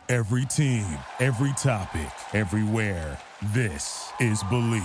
Every team, every topic, everywhere. This is Believe.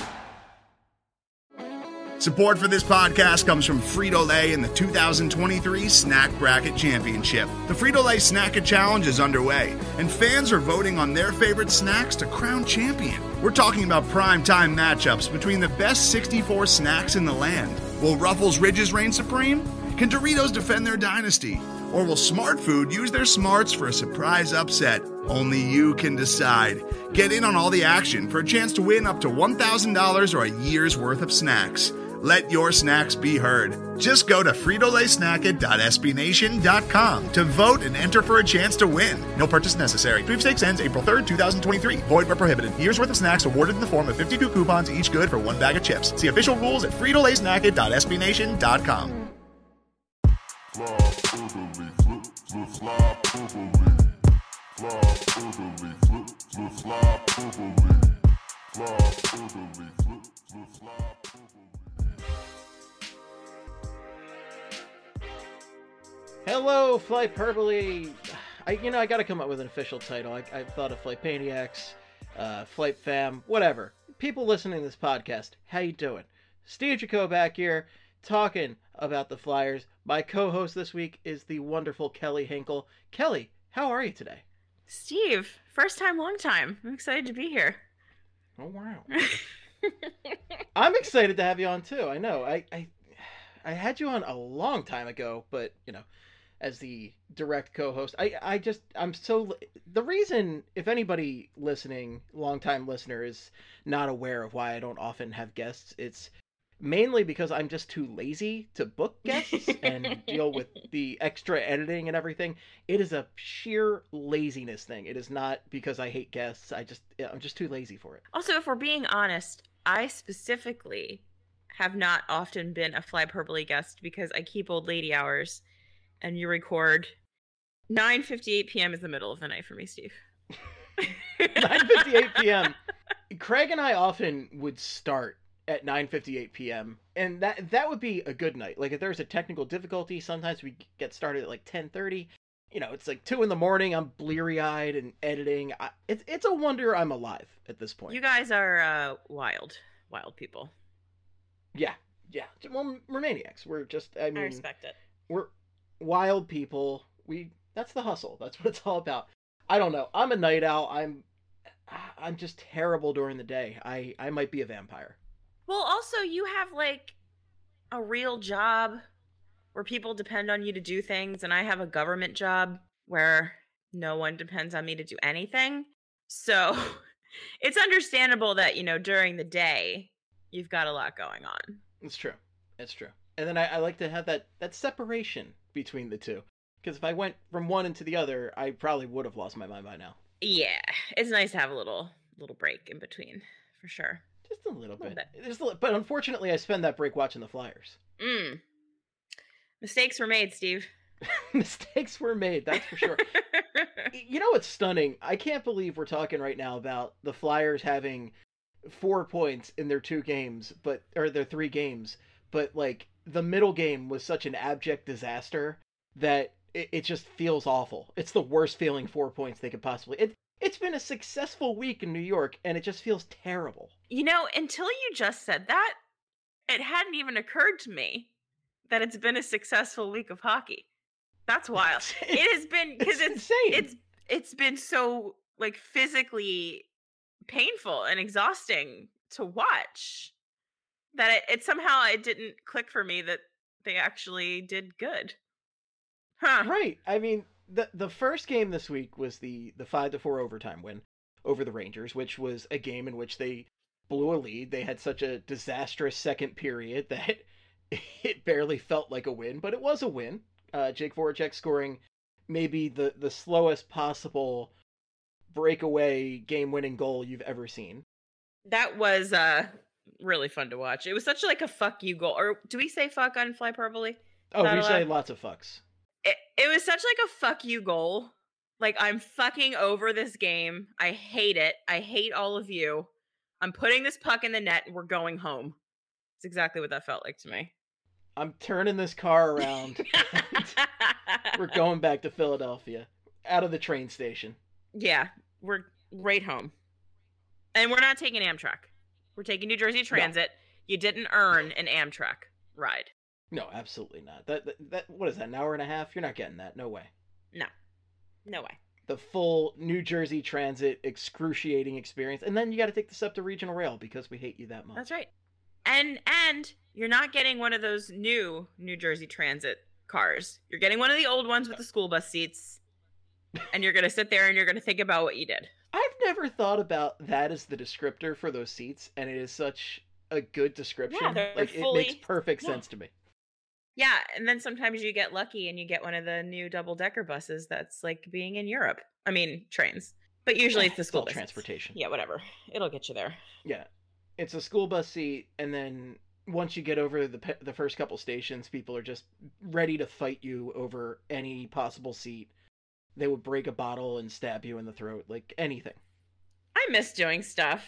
Support for this podcast comes from Frito-Lay and the 2023 Snack Bracket Championship. The Frito-Lay Snack-It Challenge is underway, and fans are voting on their favorite snacks to crown champion. We're talking about prime-time matchups between the best 64 snacks in the land. Will Ruffles Ridges reign supreme? Can Doritos defend their dynasty? Or will Smart Food use their smarts for a surprise upset? Only you can decide. Get in on all the action for a chance to win up to $1,000 or a year's worth of snacks. Let your snacks be heard. Just go to fritolaysnacket.sbnation.com to vote and enter for a chance to win. No purchase necessary. Sweepstakes ends April 3rd, 2023. Void where prohibited. Year's worth of snacks awarded in the form of 52 coupons, each good for one bag of chips. See official rules at fritolaysnacket.sbnation.com. Hello, Flightperbole. I gotta come up with an official title. I thought of Flightpaniacs, Flight Fam, whatever. People listening to this podcast, how you doing? Steve Jaco back here, talking about the Flyers. My co-host this week is the wonderful Kelly Hinkle. Kelly, how are you today? Steve, first time, long time. I'm excited to be here. Oh, wow. I'm excited to have you on, too. I know. I had you on a long time ago, but, as the direct co-host, the reason, if anybody listening, longtime listener, is not aware of why I don't often have guests, it's mainly because I'm just too lazy to book guests and deal with the extra editing and everything. It is a sheer laziness thing. It is not because I hate guests. I'm just too lazy for it. Also, if we're being honest, I specifically have not often been a Flyperbole guest because I keep old lady hours, and you record 9:58 p.m. is the middle of the night for me, Steve. 9:58 p.m. Craig and I often would start at 9:58 p.m. and that would be a good night. Like, if there's a technical difficulty, sometimes we get started at like 10:30. It's like 2 a.m. I'm bleary-eyed and editing. It's a wonder I'm alive at this point. You guys are wild people. Yeah. Well, we're maniacs. We're just, I respect it. We're wild people. That's the hustle. That's what it's all about. I don't know. I'm a night owl. I'm just terrible during the day. I might be a vampire. Well, also, you have, like, a real job where people depend on you to do things, and I have a government job where no one depends on me to do anything. So it's understandable that, during the day, you've got a lot going on. It's true. And then I like to have that separation between the two. Because if I went from one into the other, I probably would have lost my mind by now. Yeah, it's nice to have a little break in between, for sure. Just a little bit. But unfortunately, I spend that break watching the Flyers. Mistakes were made, Steve. Mistakes were made, that's for sure. You know what's stunning? I can't believe we're talking right now about the Flyers having 4 points in their 2 games, or their 3 games, but like the middle game was such an abject disaster that it just feels awful. It's the worst feeling 4 points they could possibly. It's been a successful week in New York, and it just feels terrible. Until you just said that, it hadn't even occurred to me that it's been a successful week of hockey. That's wild. It has been, because it's insane. It's been so, like, physically painful and exhausting to watch that it somehow didn't click for me that they actually did good. Huh. Right. I mean, the first game this week was the 5-4 overtime win over the Rangers, which was a game in which they blew a lead. They had such a disastrous second period that it barely felt like a win, but it was a win. Jake Voracek scoring maybe the slowest possible breakaway game-winning goal you've ever seen. That was really fun to watch. It was such like a fuck you goal. Or do we say fuck on Flyperbole? Oh, we say lots of fucks. It was such like a fuck you goal. Like, I'm fucking over this game. I hate it. I hate all of you. I'm putting this puck in the net and we're going home. It's exactly what that felt like to me. I'm turning this car around. We're going back to Philadelphia. Out of the train station. Yeah, we're right home. And we're not taking Amtrak. We're taking New Jersey Transit. No. You didn't earn an Amtrak ride. No, absolutely not. That what is that, an hour and a half? You're not getting that. No way. No way. The full New Jersey Transit excruciating experience. And then you got to take the SEPTA Regional Rail because we hate you that much. That's right. And you're not getting one of those new New Jersey Transit cars. You're getting one of the old ones with the school bus seats. And you're going to sit there and you're going to think about what you did. I've never thought about that as the descriptor for those seats, and it is such a good description. Yeah, like it makes perfect sense to me. Yeah, and then sometimes you get lucky and you get one of the new double-decker buses that's like being in Europe. I mean, trains. But usually it's the school bus transportation. Yeah, whatever. It'll get you there. Yeah. It's a school bus seat, and then once you get over the first couple stations, people are just ready to fight you over any possible seat. They would break a bottle and stab you in the throat, like anything. I miss doing stuff.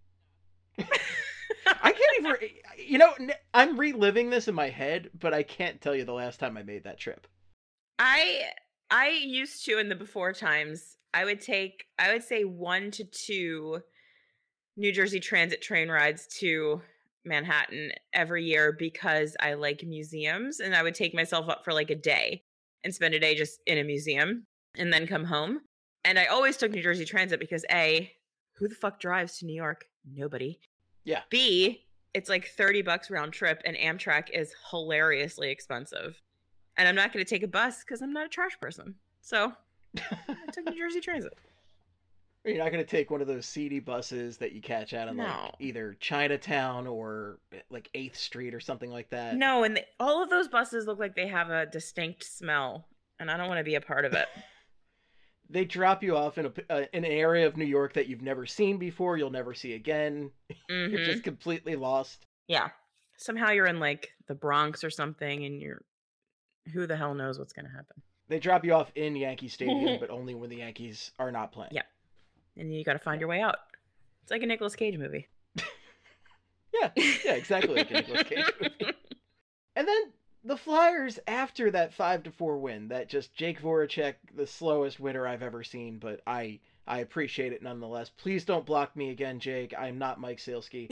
I can't even, I'm reliving this in my head, but I can't tell you the last time I made that trip. I used to, in the before times, I would say 1 to 2 New Jersey Transit train rides to Manhattan every year because I like museums, and I would take myself up for like a day and spend a day just in a museum and then come home. And I always took New Jersey Transit because A, who the fuck drives to New York? Nobody. Yeah. B, it's like $30 round trip, and Amtrak is hilariously expensive. And I'm not going to take a bus because I'm not a trash person. So I took New Jersey Transit. You're not going to take one of those seedy buses that you catch out of like either Chinatown or like 8th Street or something like that. No, and all of those buses look like they have a distinct smell, and I don't want to be a part of it. They drop you off in an area of New York that you've never seen before, you'll never see again. Mm-hmm. You're just completely lost. Yeah. Somehow you're in like the Bronx or something, and who the hell knows what's going to happen. They drop you off in Yankee Stadium, but only when the Yankees are not playing. Yeah. And you got to find your way out. It's like a Nicolas Cage movie. Yeah, exactly like a Nicolas Cage movie. And then the Flyers, after that 5-4 win, that just Jake Voracek, the slowest winner I've ever seen, but I appreciate it nonetheless. Please don't block me again, Jake. I'm not Mike Sealski.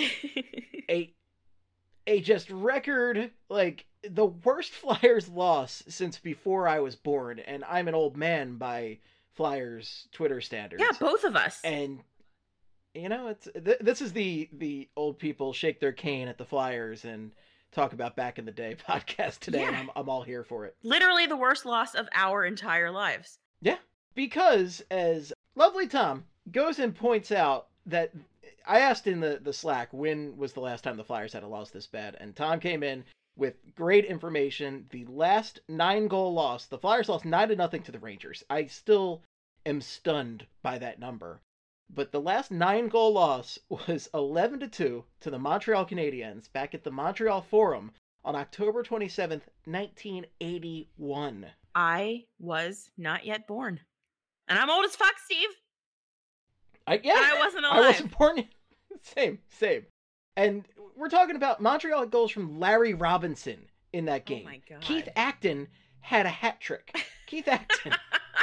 a just record, like, the worst Flyers loss since before I was born, and I'm an old man by Flyers Twitter standards. Yeah, both of us. And it's this is the old people shake their cane at the Flyers and talk about back in the day podcast today. Yeah. And I'm all here for it. Literally the worst loss of our entire lives. Yeah, because as lovely Tom goes and points out that I asked in the Slack when was the last time the Flyers had a loss this bad, and Tom came in with great information. The last 9-goal loss, the Flyers lost 9-0 to the Rangers. I still am stunned by that number. But the last 9-goal loss was 11-2 to the Montreal Canadiens back at the Montreal Forum on October 27th, 1981. I was not yet born. And I'm old as fuck, Steve. And I wasn't alive. I wasn't born. Same. And we're talking about Montreal had goals from Larry Robinson in that game. Oh my God. Keith Acton had a hat trick. Keith Acton.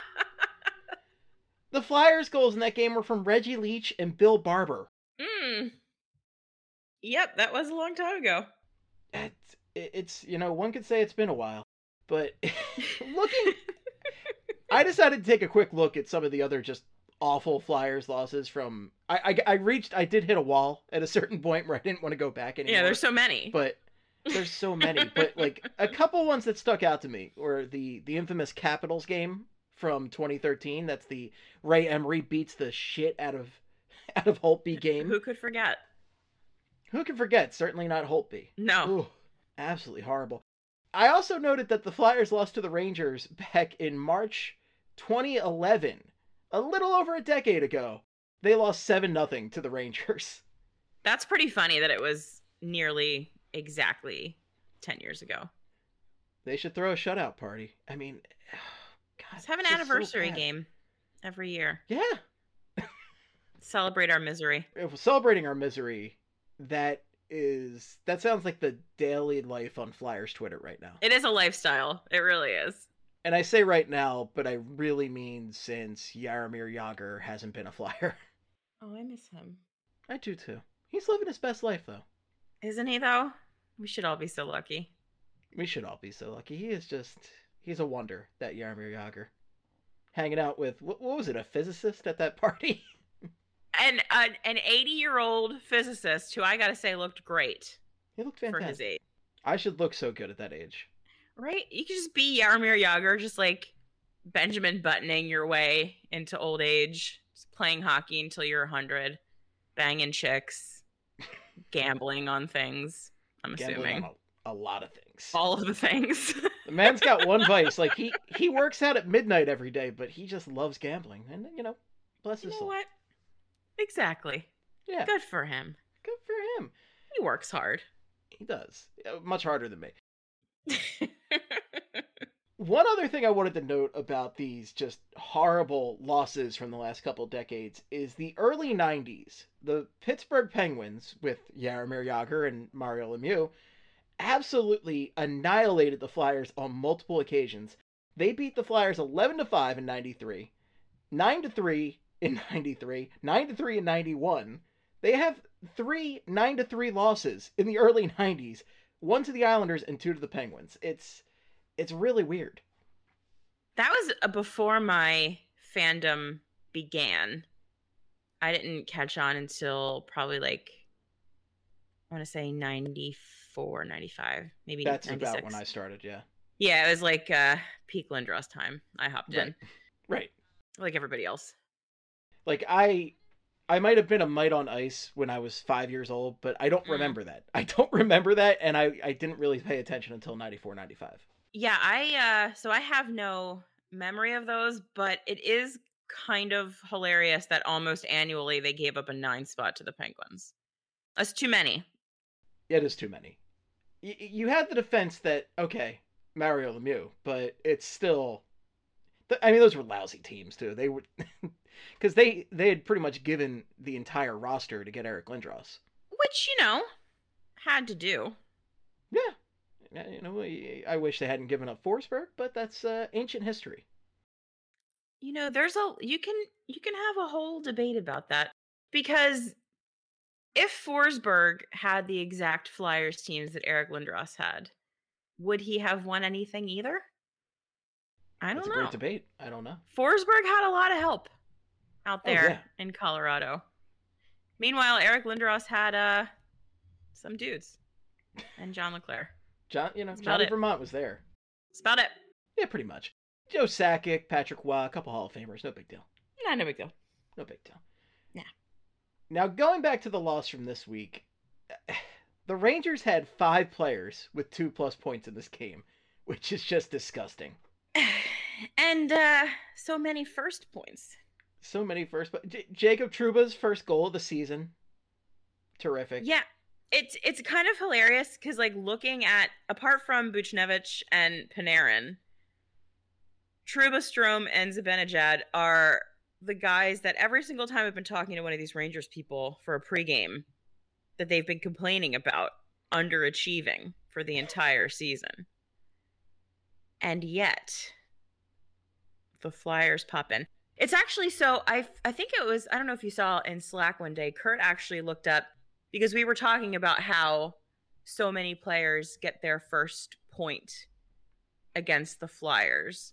The Flyers goals in that game were from Reggie Leach and Bill Barber. Yep, that was a long time ago. It's one could say it's been a while. But I decided to take a quick look at some of the other just awful Flyers losses from... I did hit a wall at a certain point where I didn't want to go back anymore. Yeah, there's so many. But there's so many. But like a couple ones that stuck out to me were the infamous Capitals game from 2013. That's the Ray Emery beats the shit out of Holtby game. Who could forget? Who can forget? Certainly not Holtby. No. Ooh, absolutely horrible. I also noted that the Flyers lost to the Rangers back in March 2011. A little over a decade ago. They lost 7-0 to the Rangers. That's pretty funny that it was nearly exactly 10 years ago. They should throw a shutout party. I mean, God, let's have an anniversary game every year. Yeah. Celebrate our misery. If we're celebrating our misery, that sounds like the daily life on Flyers Twitter right now. It is a lifestyle. It really is. And I say right now, but I really mean since Jaromir Jagr hasn't been a Flyer. Oh, I miss him. I do too. He's living his best life, though. Isn't he, though? We should all be so lucky. We should all be so lucky. He's a wonder, that Jaromir Jagr. Hanging out with, what was it, a physicist at that party? And an 80-year-old physicist who I gotta say looked great. He looked fantastic. For his age. I should look so good at that age. Right? You could just be Jaromir Jagr, just like Benjamin Buttoning your way into old age, just playing hockey until you're 100, banging chicks, gambling on things, I'm assuming. On a lot of things. All of the things. The man's got one vice. Like, he works out at midnight every day, but he just loves gambling. And, bless his soul. What? Exactly. Yeah. Good for him. Good for him. He works hard. He does. Much harder than me. One other thing I wanted to note about these just horrible losses from the last couple decades is the early 90s. The Pittsburgh Penguins, with Jaromir Jagr and Mario Lemieux, absolutely annihilated the Flyers on multiple occasions. They beat the Flyers 11-5 in 93, 9-3 in 93, 9-3 in 91. They have 3 9-3 losses in the early 90s, 1 to the Islanders and 2 to the Penguins. It's really weird. That was before my fandom began. I didn't catch on until probably I want to say 94, 95, maybe That's 96. about when I started, yeah. Yeah, it was peak Lindros time. I hopped in. Right. Like everybody else. I might have been a mite on ice when I was 5 years old, but I don't remember that. I don't remember that, and I didn't really pay attention until 94, 95. Yeah, so I have no memory of those, but it is kind of hilarious that almost annually they gave up a 9 spot to the Penguins. That's too many. It is too many. You had the defense that, okay, Mario Lemieux, but it's still... I mean, those were lousy teams, too. They were... Because they had pretty much given the entire roster to get Eric Lindros. Which, had to do. Yeah. I wish they hadn't given up Forsberg, but that's ancient history. There's you can have a whole debate about that. Because if Forsberg had the exact Flyers teams that Eric Lindros had, would he have won anything either? I don't know. That's a great debate. I don't know. Forsberg had a lot of help out there in Colorado. Meanwhile, Eric Lindros had some dudes and John LeClair. Johnny Vermont was there. That's about it. Yeah, pretty much. Joe Sakic, Patrick Waugh, a couple Hall of Famers. No big deal. No big deal. No big deal. Yeah. Now, going back to the loss from this week, the Rangers had 5 players with 2+ points in this game, which is just disgusting. And so many first points. So many first, but Jacob Trouba's first goal of the season. Terrific. Yeah, it's kind of hilarious because looking at, apart from Buchnevich and Panarin, Trouba, Strome, and Zibanejad are the guys that every single time I've been talking to one of these Rangers people for a pregame that they've been complaining about underachieving for the entire season. And yet, the Flyers pop in. It's actually so, I think it was, I don't know if you saw in Slack one day, Kurt actually looked up, because we were talking about how so many players get their first point against the Flyers.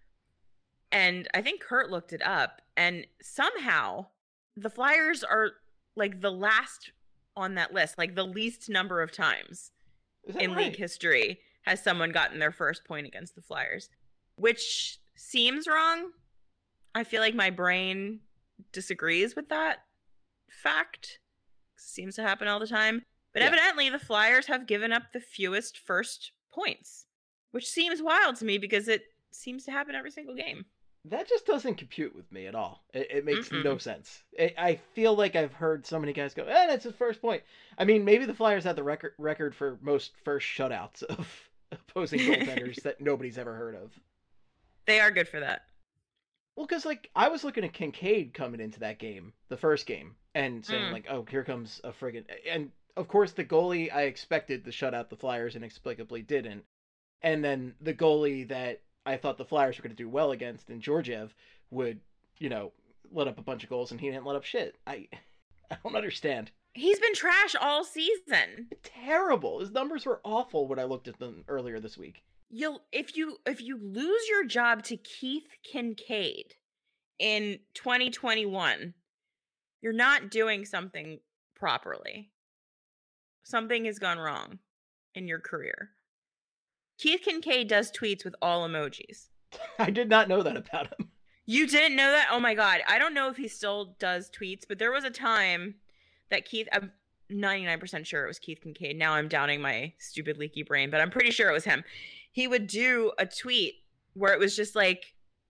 And I think Kurt looked it up, and somehow the Flyers are the last on that list, the least number of times in league history has someone gotten their first point against the Flyers, which seems wrong. I feel like my brain disagrees with that fact. It seems to happen all the time. But evidently the Flyers have given up the fewest first points, which seems wild to me because it seems to happen every single game. That just doesn't compute with me at all. It makes no sense. I feel like I've heard so many guys go, that's his first point. I mean, maybe the Flyers had the record for most first shutouts of opposing goaltenders that nobody's ever heard of. They are good for that. Well, because, I was looking at Kincaid coming into that game, the first game, and saying, here comes a friggin'... And, of course, the goalie I expected to shut out the Flyers inexplicably didn't. And then the goalie that I thought the Flyers were going to do well against, and Georgiev would, let up a bunch of goals, and he didn't let up shit. I don't understand. He's been trash all season. Terrible. His numbers were awful when I looked at them earlier this week. If you lose your job to Keith Kincaid in 2021, you're not doing something properly. Something has gone wrong in your career. Keith Kincaid does tweets with all emojis. I did not know that about him. You didn't know that? Oh my God. I don't know if he still does tweets, but there was a time that I'm 99% sure it was Keith Kincaid. Now I'm doubting my stupid leaky brain, but I'm pretty sure it was him. He would do a tweet where it was just like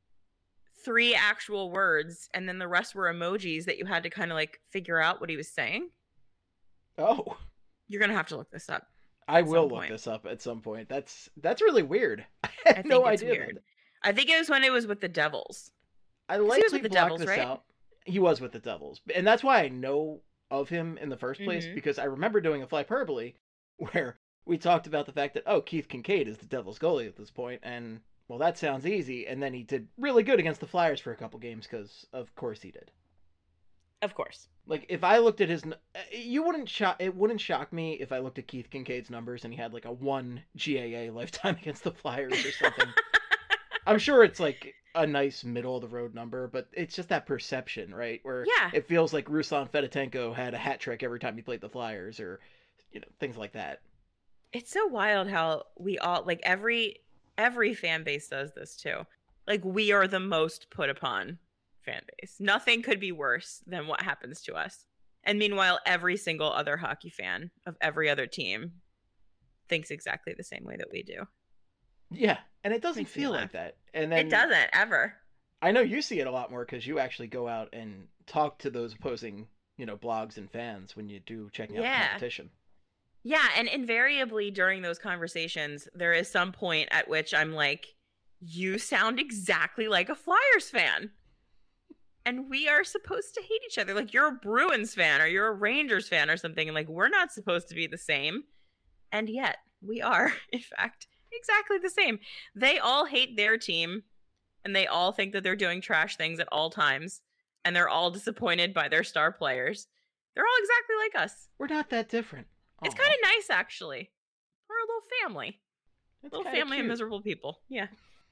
3 actual words, and then the rest were emojis that you had to kind of like figure out what he was saying. Oh. You're going to have to look this up. I will look this up at some point. That's really weird. I had no idea. Weird. I think it was when it was with the Devils. I likely blocked this out. He was with the Devils. And that's why I know of him in the first place, because I remember doing a Flyperbole where we talked about the fact that, Keith Kincaid is the Devils goalie at this point, and, well, that sounds easy. And then he did really good against the Flyers for a couple games, because of course he did. Of course. Like, if I looked at it wouldn't shock me if I looked at Keith Kincaid's numbers and he had like a 1 GAA lifetime against the Flyers or something. I'm sure it's like a nice middle of the road number, but it's just that perception, right? Where it feels like Ruslan Fedotenko had a hat trick every time he played the Flyers, or, things like that. It's so wild how we all, like, every fan base does this too. Like, we are the most put upon fan base. Nothing could be worse than what happens to us. And meanwhile, every single other hockey fan of every other team thinks exactly the same way that we do. Yeah, and it doesn't feel like that. And then it doesn't ever. I know you see it a lot more because you actually go out and talk to those opposing, blogs and fans when you do checking out the competition. Yeah, and invariably during those conversations, there is some point at which I'm like, you sound exactly like a Flyers fan. And we are supposed to hate each other. Like, you're a Bruins fan or you're a Rangers fan or something. And like, we're not supposed to be the same. And yet we are, in fact, exactly the same. They all hate their team and they all think that they're doing trash things at all times. And they're all disappointed by their star players. They're all exactly like us. We're not that different. It's kind of nice, actually. We're a little family. Little family of miserable people. Yeah.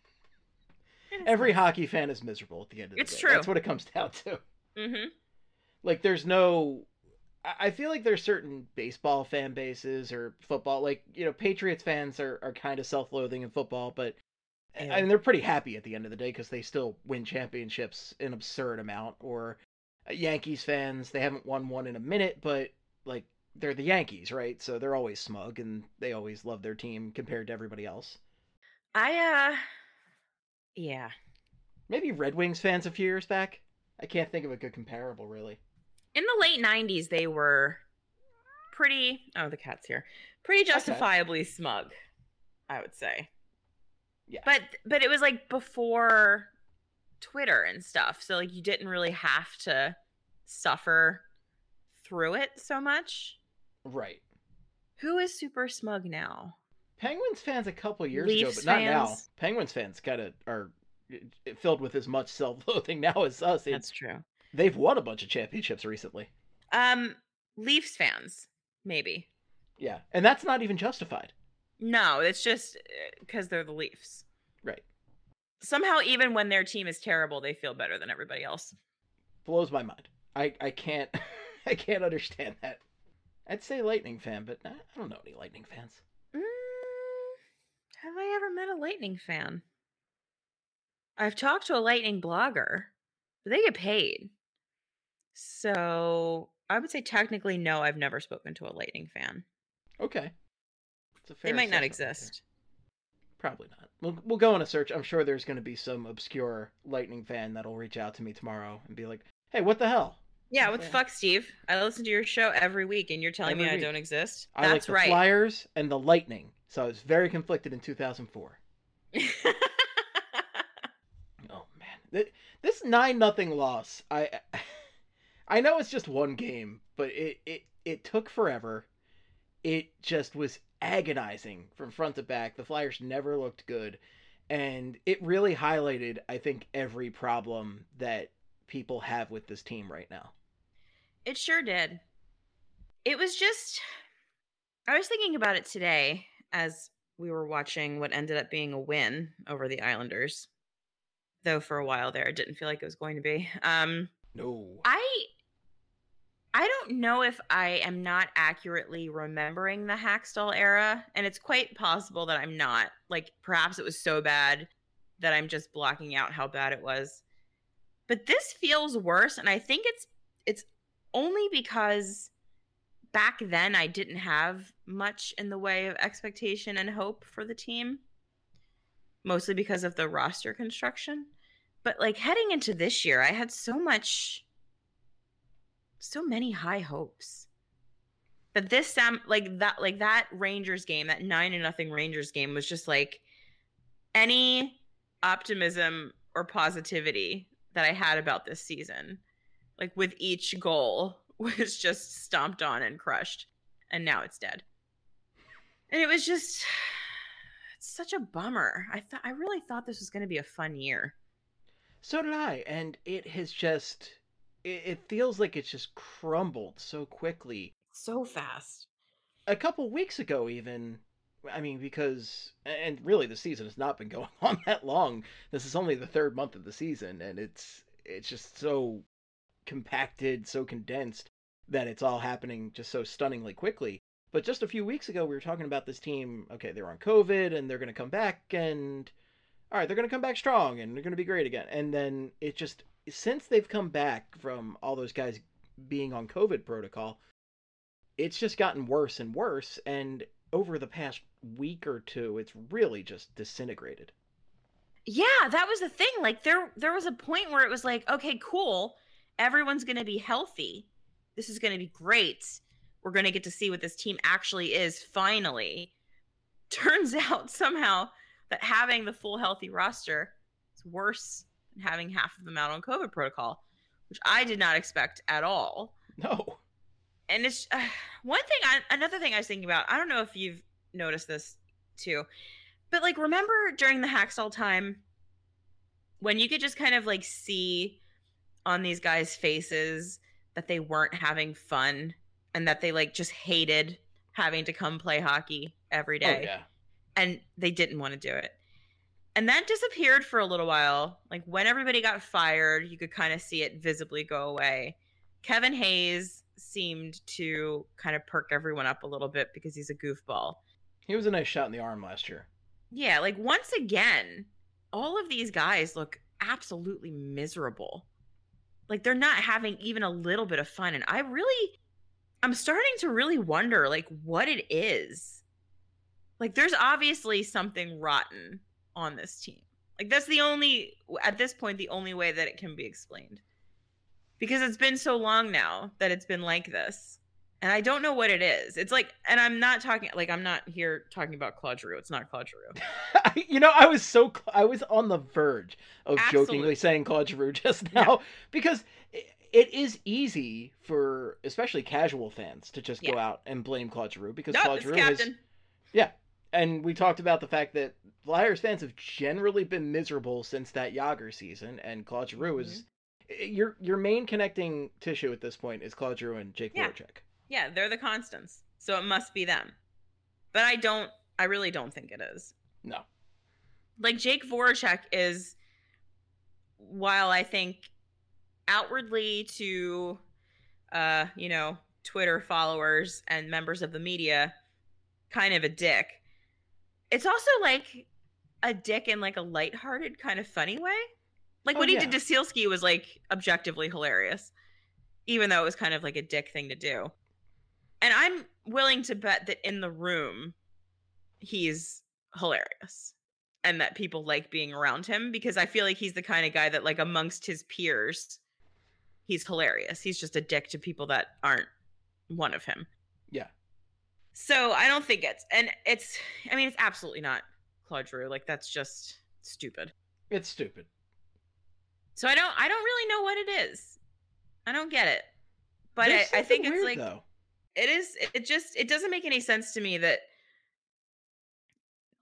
Every hockey fan is miserable at the end of the day. It's true. That's what it comes down to. Mm-hmm. Like, I feel like there's certain baseball fan bases or football. Like, Patriots fans are kind of self-loathing in football, but I mean, they're pretty happy at the end of the day because they still win championships an absurd amount. Or Yankees fans, they haven't won one in a minute, but, like, they're the Yankees, right? So they're always smug and they always love their team compared to everybody else. Yeah. Maybe Red Wings fans a few years back. I can't think of a good comparable, really. In the late 90s, they were pretty... Oh, the cat's here. Pretty justifiably smug, I would say. Yeah. But it was, like, before Twitter and stuff. So, like, you didn't really have to suffer through it so much. Right. Who is super smug now? Penguins fans a couple years Leafs ago, but not fans. now. Penguins fans are filled with as much self-loathing now as us. That's true. They've won a bunch of championships recently. Leafs fans, maybe. Yeah, and that's not even justified. No, it's just because they're the Leafs. Right. Somehow, even when their team is terrible, they feel better than everybody else. Blows my mind. I can't I can't understand that. I'd say Lightning fan, but I don't know any Lightning fans. Have I ever met a Lightning fan? I've talked to a Lightning blogger, but they get paid. So I would say technically no, I've never spoken to a Lightning fan. Okay. It's a fair they might not assessment exist. There. Probably not. We'll go on a search. I'm sure there's going to be some obscure Lightning fan that'll reach out to me tomorrow and be like, hey, what the hell? Yeah, what the fuck, Steve? I listen to your show every week and you're telling me I don't exist? I like the Flyers and the Lightning. So I was very conflicted in 2004. Oh, man. This 9-0 loss, I know it's just one game, but it took forever. It just was agonizing from front to back. The Flyers never looked good. And it really highlighted, I think, every problem that people have with this team right now. It sure did. It was just, I was thinking about it today as we were watching what ended up being a win over the Islanders. Though for a while there, it didn't feel like it was going to be. No. I don't know if I am not accurately remembering the Hackstall era, and it's quite possible that I'm not. Like, perhaps it was so bad that I'm just blocking out how bad it was. But this feels worse, and I think it's only because back then I didn't have much in the way of expectation and hope for the team, mostly because of the roster construction. But like heading into this year, I had so many high hopes that this that Rangers game, that 9-0 Rangers game, was just like any optimism or positivity that I had about this season, like with each goal, was just stomped on and crushed, and now it's dead. And it was just, it's such a bummer. I really thought this was going to be a fun year. So did I, and it has just, it feels like it's just crumbled so quickly. So fast. A couple weeks ago even, I mean, because, and really the season has not been going on that long. This is only the third month of the season, and it's just so compacted, so condensed, that it's all happening just so stunningly quickly. But just a few weeks ago, we were talking about this team, okay, they're on COVID, and they're going to come back, and all right, they're going to come back strong, and they're going to be great again. And then it just, since they've come back from all those guys being on COVID protocol, it's just gotten worse and worse, and over the past week or two, it's really just disintegrated. Yeah, that was the thing. Like, there was a point where it was like, okay, cool, everyone's going to be healthy. This is going to be great. We're going to get to see what this team actually is, finally. Turns out, somehow, that having the full healthy roster is worse than having half of them out on COVID protocol, which I did not expect at all. No. And it's another thing I was thinking about, I don't know if you've noticed this too, but like, remember during the Hackstall time when you could just kind of like see on these guys' faces that they weren't having fun and that they like just hated having to come play hockey every day. Oh, yeah. And they didn't want to do it. And that disappeared for a little while. Like when everybody got fired, you could kind of see it visibly go away. Kevin Hayes seemed to kind of perk everyone up a little bit because he's a goofball. He was a nice shot in the arm last year. Yeah, like once again, all of these guys look absolutely miserable. Like they're not having even a little bit of fun. And I'm starting to really wonder like what it is. Like there's obviously something rotten on this team. Like that's at this point, the only way that it can be explained. Because it's been so long now that it's been like this. And I don't know what it is. It's like, and I'm not here talking about Claude Giroux. It's not Claude Giroux. You know, I was on the verge of jokingly saying Claude Giroux just now, because it is easy for especially casual fans to just go out and blame Claude Giroux because Claude Giroux captain. Yeah. And we talked about the fact that Flyers fans have generally been miserable since that Jágr season, and Claude Giroux is your main connecting tissue at this point is Claude Giroux and Jake Voracek. Yeah, they're the constants. So it must be them. But I really don't think it is. No. Like Jake Voracek is, while I think outwardly to Twitter followers and members of the media kind of a dick, it's also like a dick in like a lighthearted kind of funny way. Like what he did to Sealski was like objectively hilarious, even though it was kind of like a dick thing to do. And I'm willing to bet that in the room, he's hilarious and that people like being around him because I feel like he's the kind of guy that like amongst his peers, he's hilarious. He's just a dick to people that aren't one of him. Yeah. So I don't think it's absolutely not Claude Giroux. Like that's just stupid. It's stupid. So I don't really know what it is. I don't get it. But I think it's weird, like, though. It is, it doesn't make any sense to me that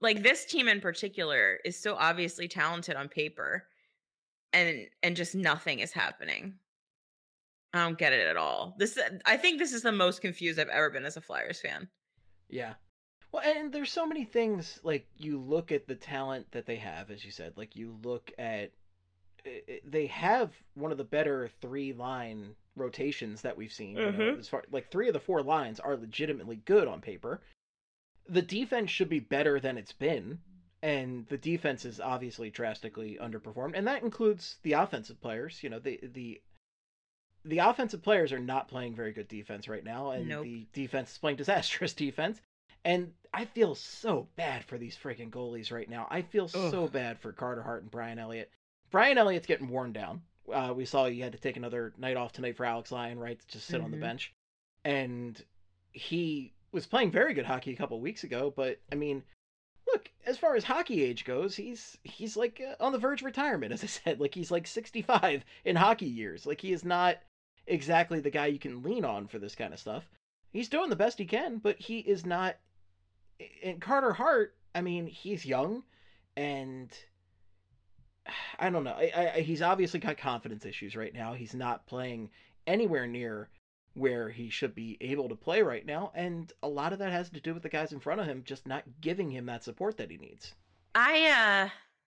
like this team in particular is so obviously talented on paper, and just nothing is happening. I don't get it at all. I think this is the most confused I've ever been as a Flyers fan. Yeah. Well, and there's so many things, like, you look at the talent that they have, as you said, like, you look at, they have one of the better 3-line rotations that we've seen. You know, as far, like, 3 of the 4 lines are legitimately good on paper. The defense should be better than it's been, and the defense is obviously drastically underperformed, and that includes the offensive players. You know, the offensive players are not playing very good defense right now, and the defense is playing disastrous defense. And I feel so bad for these freaking goalies right now. I feel so bad for Carter Hart and Brian Elliott. Brian Elliott's getting worn down. We saw he had to take another night off tonight for Alex Lyon, right? To just sit on the bench. And he was playing very good hockey a couple of weeks ago, but, I mean, look, as far as hockey age goes, he's like on the verge of retirement, as I said. Like, he's like 65 in hockey years. Like, he is not exactly the guy you can lean on for this kind of stuff. He's doing the best he can, but he is not. And Carter Hart, I mean, he's young, and I don't know. He's obviously got confidence issues right now. He's not playing anywhere near where he should be able to play right now, and a lot of that has to do with the guys in front of him just not giving him that support that he needs. I'm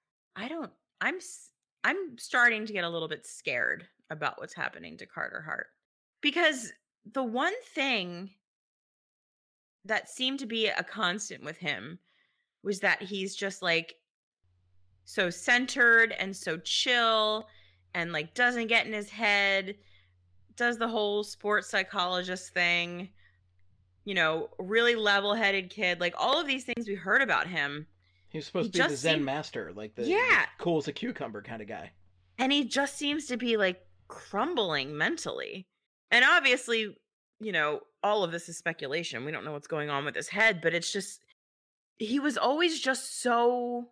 starting to get a little bit scared about what's happening to Carter Hart, because the one thing that seemed to be a constant with him was that he's just like so centered and so chill and like doesn't get in his head, does the whole sports psychologist thing, you know, really level-headed kid, like all of these things we heard about him. He was supposed to be the Zen master, like the cool as a cucumber kind of guy. And he just seems to be like crumbling mentally. And obviously, you know, all of this is speculation. We don't know what's going on with his head, but it's just, he was always just so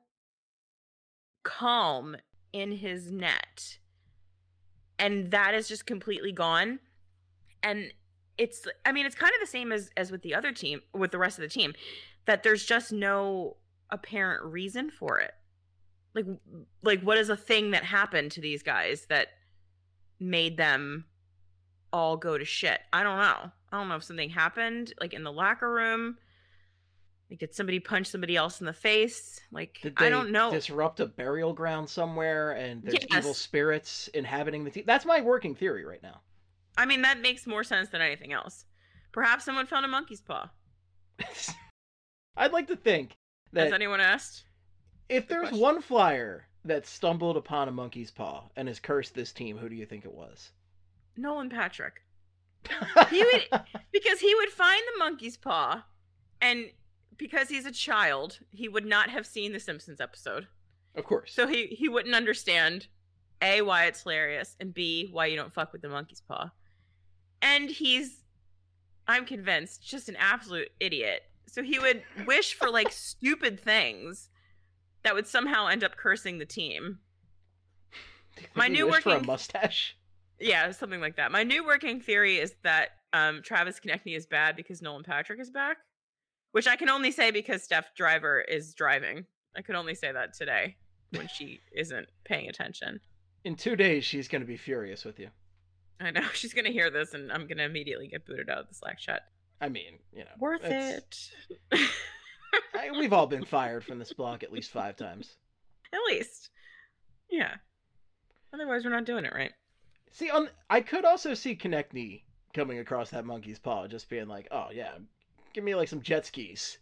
calm in his net. And that is just completely gone. And it's, I mean, it's kind of the same as with the other team, with the rest of the team, that there's just no apparent reason for it. Like what is a thing that happened to these guys that made them all go to shit? I don't know. I don't know if something happened, like in the locker room. Like, did somebody punch somebody else in the face? Like, I don't know. Disrupt a burial ground somewhere, and there's evil spirits inhabiting the team. That's my working theory right now. I mean, that makes more sense than anything else. Perhaps someone found a monkey's paw. I'd like to think that... Has anyone asked? If there's one Flyer that stumbled upon a monkey's paw and has cursed this team, who do you think it was? Nolan Patrick. Because he would find the monkey's paw, and because he's a child, he would not have seen the Simpsons episode. Of course. So he wouldn't understand, A, why it's hilarious, and B, why you don't fuck with the monkey's paw. And he's, I'm convinced, just an absolute idiot. So he would wish for like stupid things that would somehow end up cursing the team. My new working for a mustache. Yeah, something like that. My new working theory is that Travis Konechny is bad because Nolan Patrick is back, which I can only say because Steph Driver is driving. I could only say that today when she isn't paying attention. In 2 days, she's going to be furious with you. I know. She's going to hear this, and I'm going to immediately get booted out of the Slack chat. I mean, you know. Worth it. We've all been fired from this blog at least 5 times. At least. Yeah. Otherwise, we're not doing it right. See, I could also see Konechny coming across that monkey's paw, just being like, oh, yeah, give me, like, some jet skis.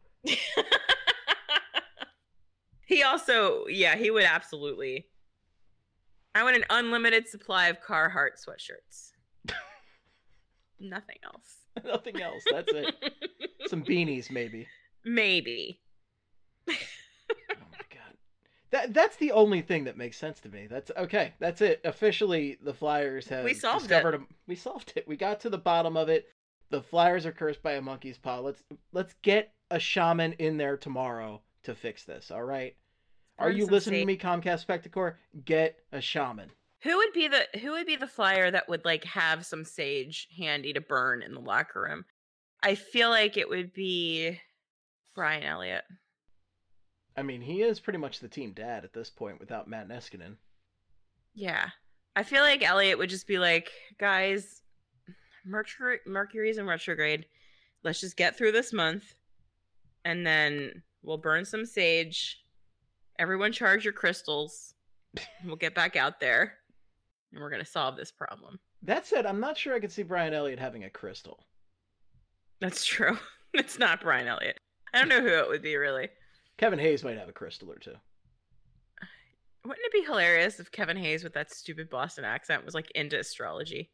He also, yeah, he would absolutely. I want an unlimited supply of Carhartt sweatshirts. Nothing else. Nothing else. That's it. Some beanies, maybe. Maybe. Oh my god. That's the only thing that makes sense to me. That's okay. That's it. Officially, the Flyers have discovered it. We solved it. We got to the bottom of it. The Flyers are cursed by a monkey's paw. Let's get a shaman in there tomorrow to fix this. All right. Are you listening to me, Comcast Spectacor? Get a shaman. Who would be the Flyer that would like have some sage handy to burn in the locker room? I feel like it would be Brian Elliott. I mean, he is pretty much the team dad at this point without Matt Niskanen. Yeah. I feel like Elliot would just be like, guys, Mercury's in retrograde. Let's just get through this month, and then we'll burn some sage. Everyone charge your crystals. We'll get back out there, and we're going to solve this problem. That said, I'm not sure I could see Brian Elliott having a crystal. That's true. It's not Brian Elliott. I don't know who it would be, really. Kevin Hayes might have a crystal or two. Wouldn't it be hilarious if Kevin Hayes with that stupid Boston accent was like into astrology?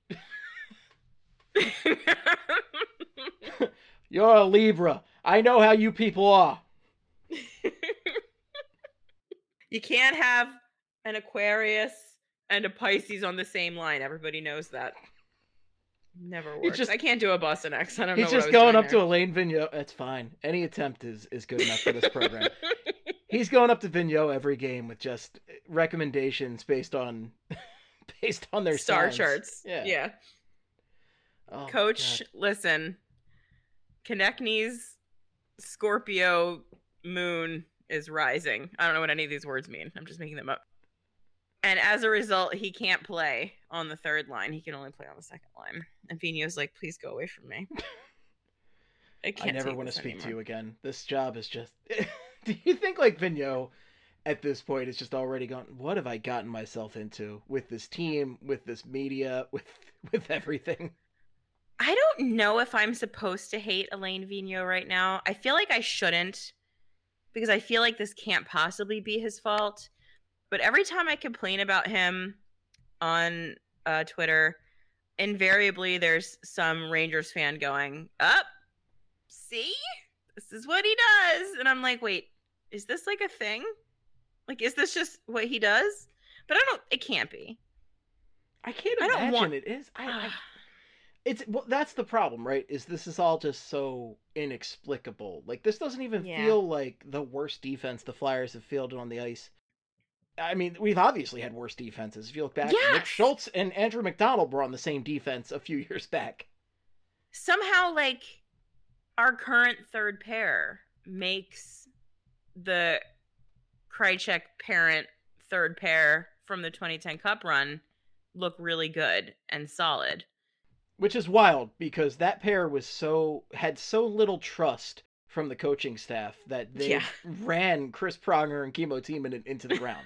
You're a Libra. I know how you people are. You can't have an Aquarius and a Pisces on the same line. Everybody knows that. Never works. I can't do a Boston accent. I don't know what I was going up there. to Alain Vigneault. That's fine. Any attempt is good enough for this program. He's going up to Vigneault every game with just recommendations based on their star signs. charts. Yeah. Oh, Coach, listen. Konechny's Scorpio moon is rising. I don't know what any of these words mean. I'm just making them up. And as a result, he can't play on the third line. He can only play on the second line. And Vigneault's like, please go away from me. I never want to speak to you again. This job is just... Do you think like Vigneault at this point is just already gone, what have I gotten myself into with this team, with this media, with everything? I don't know if I'm supposed to hate Alain Vigneault right now. I feel like I shouldn't, because I feel like this can't possibly be his fault. But every time I complain about him on Twitter, invariably there's some Rangers fan going, see? This is what he does. And I'm like, wait, is this like a thing? Like, is this just what he does? But it can't be. I can't imagine it is. Well, that's the problem, right? This is all just so inexplicable. Like, this doesn't even feel like the worst defense the Flyers have fielded on the ice. I mean, we've obviously had worse defenses. If you look back, Nick Schultz and Andrew McDonald were on the same defense a few years back. Somehow, like, our current third pair makes the Krejcik parent third pair from the 2010 Cup run look really good and solid. Which is wild, because that pair had so little trust from the coaching staff that they ran Chris Pronger and Kimmo Timonen into the ground.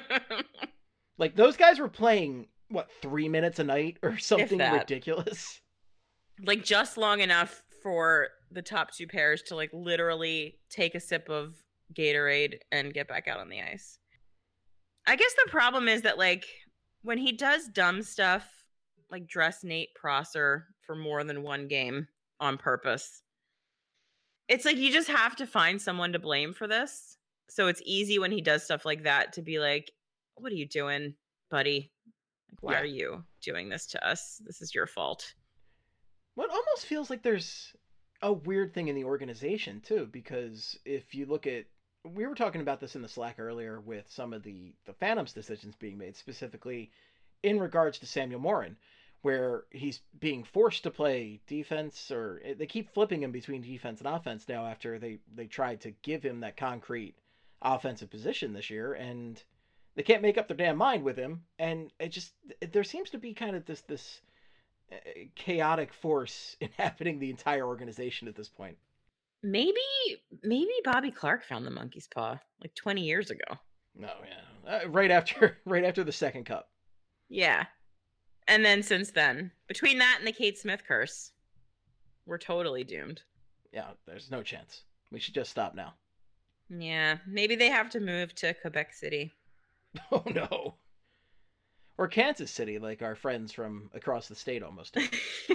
Like, those guys were playing, 3 minutes a night or something ridiculous? Like, just long enough for the top two pairs to, like, literally take a sip of Gatorade and get back out on the ice. I guess the problem is that, like, when he does dumb stuff, like dress Nate Prosser for more than one game on purpose, it's like you just have to find someone to blame for this. So it's easy when he does stuff like that to be like, what are you doing, buddy? Like, why are you doing this to us? This is your fault. Well, it almost feels like there's a weird thing in the organization, too, because if you look at... We were talking about this in the Slack earlier with some of the Phantoms decisions being made, specifically in regards to Samuel Morin, where he's being forced to play defense, or they keep flipping him between defense and offense now after they tried to give him that concrete offensive position this year, and they can't make up their damn mind with him, and there seems to be kind of this chaotic force inhabiting the entire organization at this point. Maybe Bobby Clarke found the monkey's paw like 20 years ago. No, right after the second cup. Yeah. And then since then, between that and the Kate Smith curse, we're totally doomed. Yeah, there's no chance. We should just stop now. Yeah, maybe they have to move to Quebec City. Oh, no. Or Kansas City, like our friends from across the state almost did.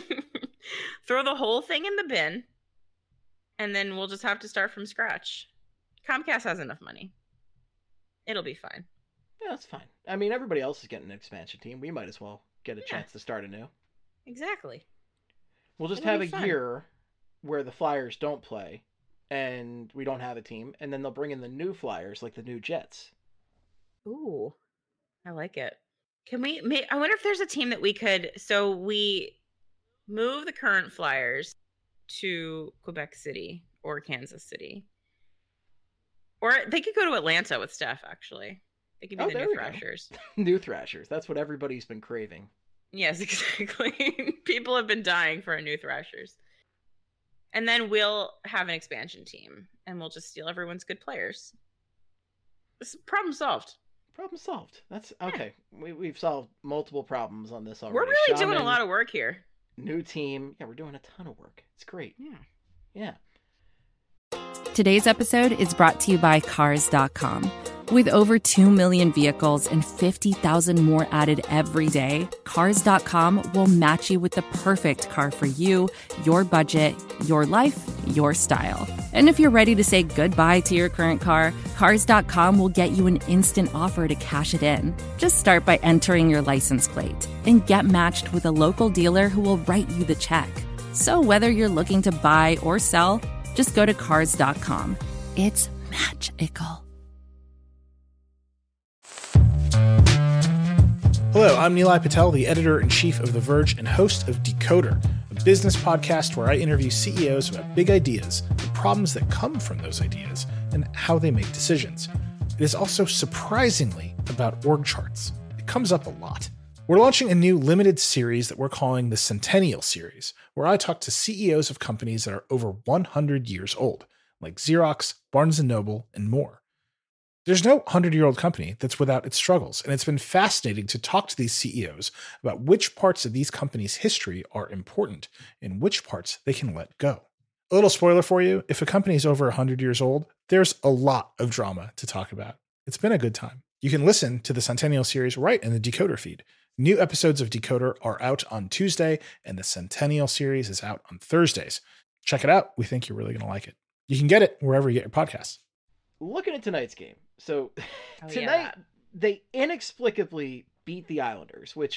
Throw the whole thing in the bin, and then we'll just have to start from scratch. Comcast has enough money. It'll be fine. Yeah, that's fine. I mean, everybody else is getting an expansion team. We might as well get a chance to start anew. Exactly. We'll just have a year where the Flyers don't play, and we don't have a team, and then they'll bring in the new Flyers, like the new Jets. Ooh, I like it. Can we? I wonder if there's a team that we could. So we move the current Flyers to Quebec City or Kansas City, Or they could go to Atlanta with Steph, actually. They could be the new Thrashers. New Thrashers. That's what everybody's been craving. Yes, exactly. People have been dying for a new Thrashers. And then we'll have an expansion team, and we'll just steal everyone's good players. This problem solved. Problem solved. That's okay. Yeah. We've solved multiple problems on this already. We're really doing a lot of work here. New team. Yeah, we're doing a ton of work. It's great. Yeah. Today's episode is brought to you by Cars.com. With over 2 million vehicles and 50,000 more added every day, Cars.com will match you with the perfect car for you, your budget, your life, your style. And if you're ready to say goodbye to your current car, Cars.com will get you an instant offer to cash it in. Just start by entering your license plate and get matched with a local dealer who will write you the check. So whether you're looking to buy or sell, just go to Cars.com. It's magical. Hello, I'm Nilay Patel, the editor-in-chief of The Verge and host of Decoder, a business podcast where I interview CEOs about big ideas, the problems that come from those ideas, and how they make decisions. It is also surprisingly about org charts. It comes up a lot. We're launching a new limited series that we're calling the Centennial Series, where I talk to CEOs of companies that are over 100 years old, like Xerox, Barnes & Noble, and more. There's no 100-year-old company that's without its struggles, and it's been fascinating to talk to these CEOs about which parts of these companies' history are important and which parts they can let go. A little spoiler for you, if a company is over 100 years old, there's a lot of drama to talk about. It's been a good time. You can listen to the Centennial Series right in the Decoder feed. New episodes of Decoder are out on Tuesday, and the Centennial Series is out on Thursdays. Check it out. We think you're really going to like it. You can get it wherever you get your podcasts. Looking at tonight's game. So tonight, they inexplicably beat the Islanders, which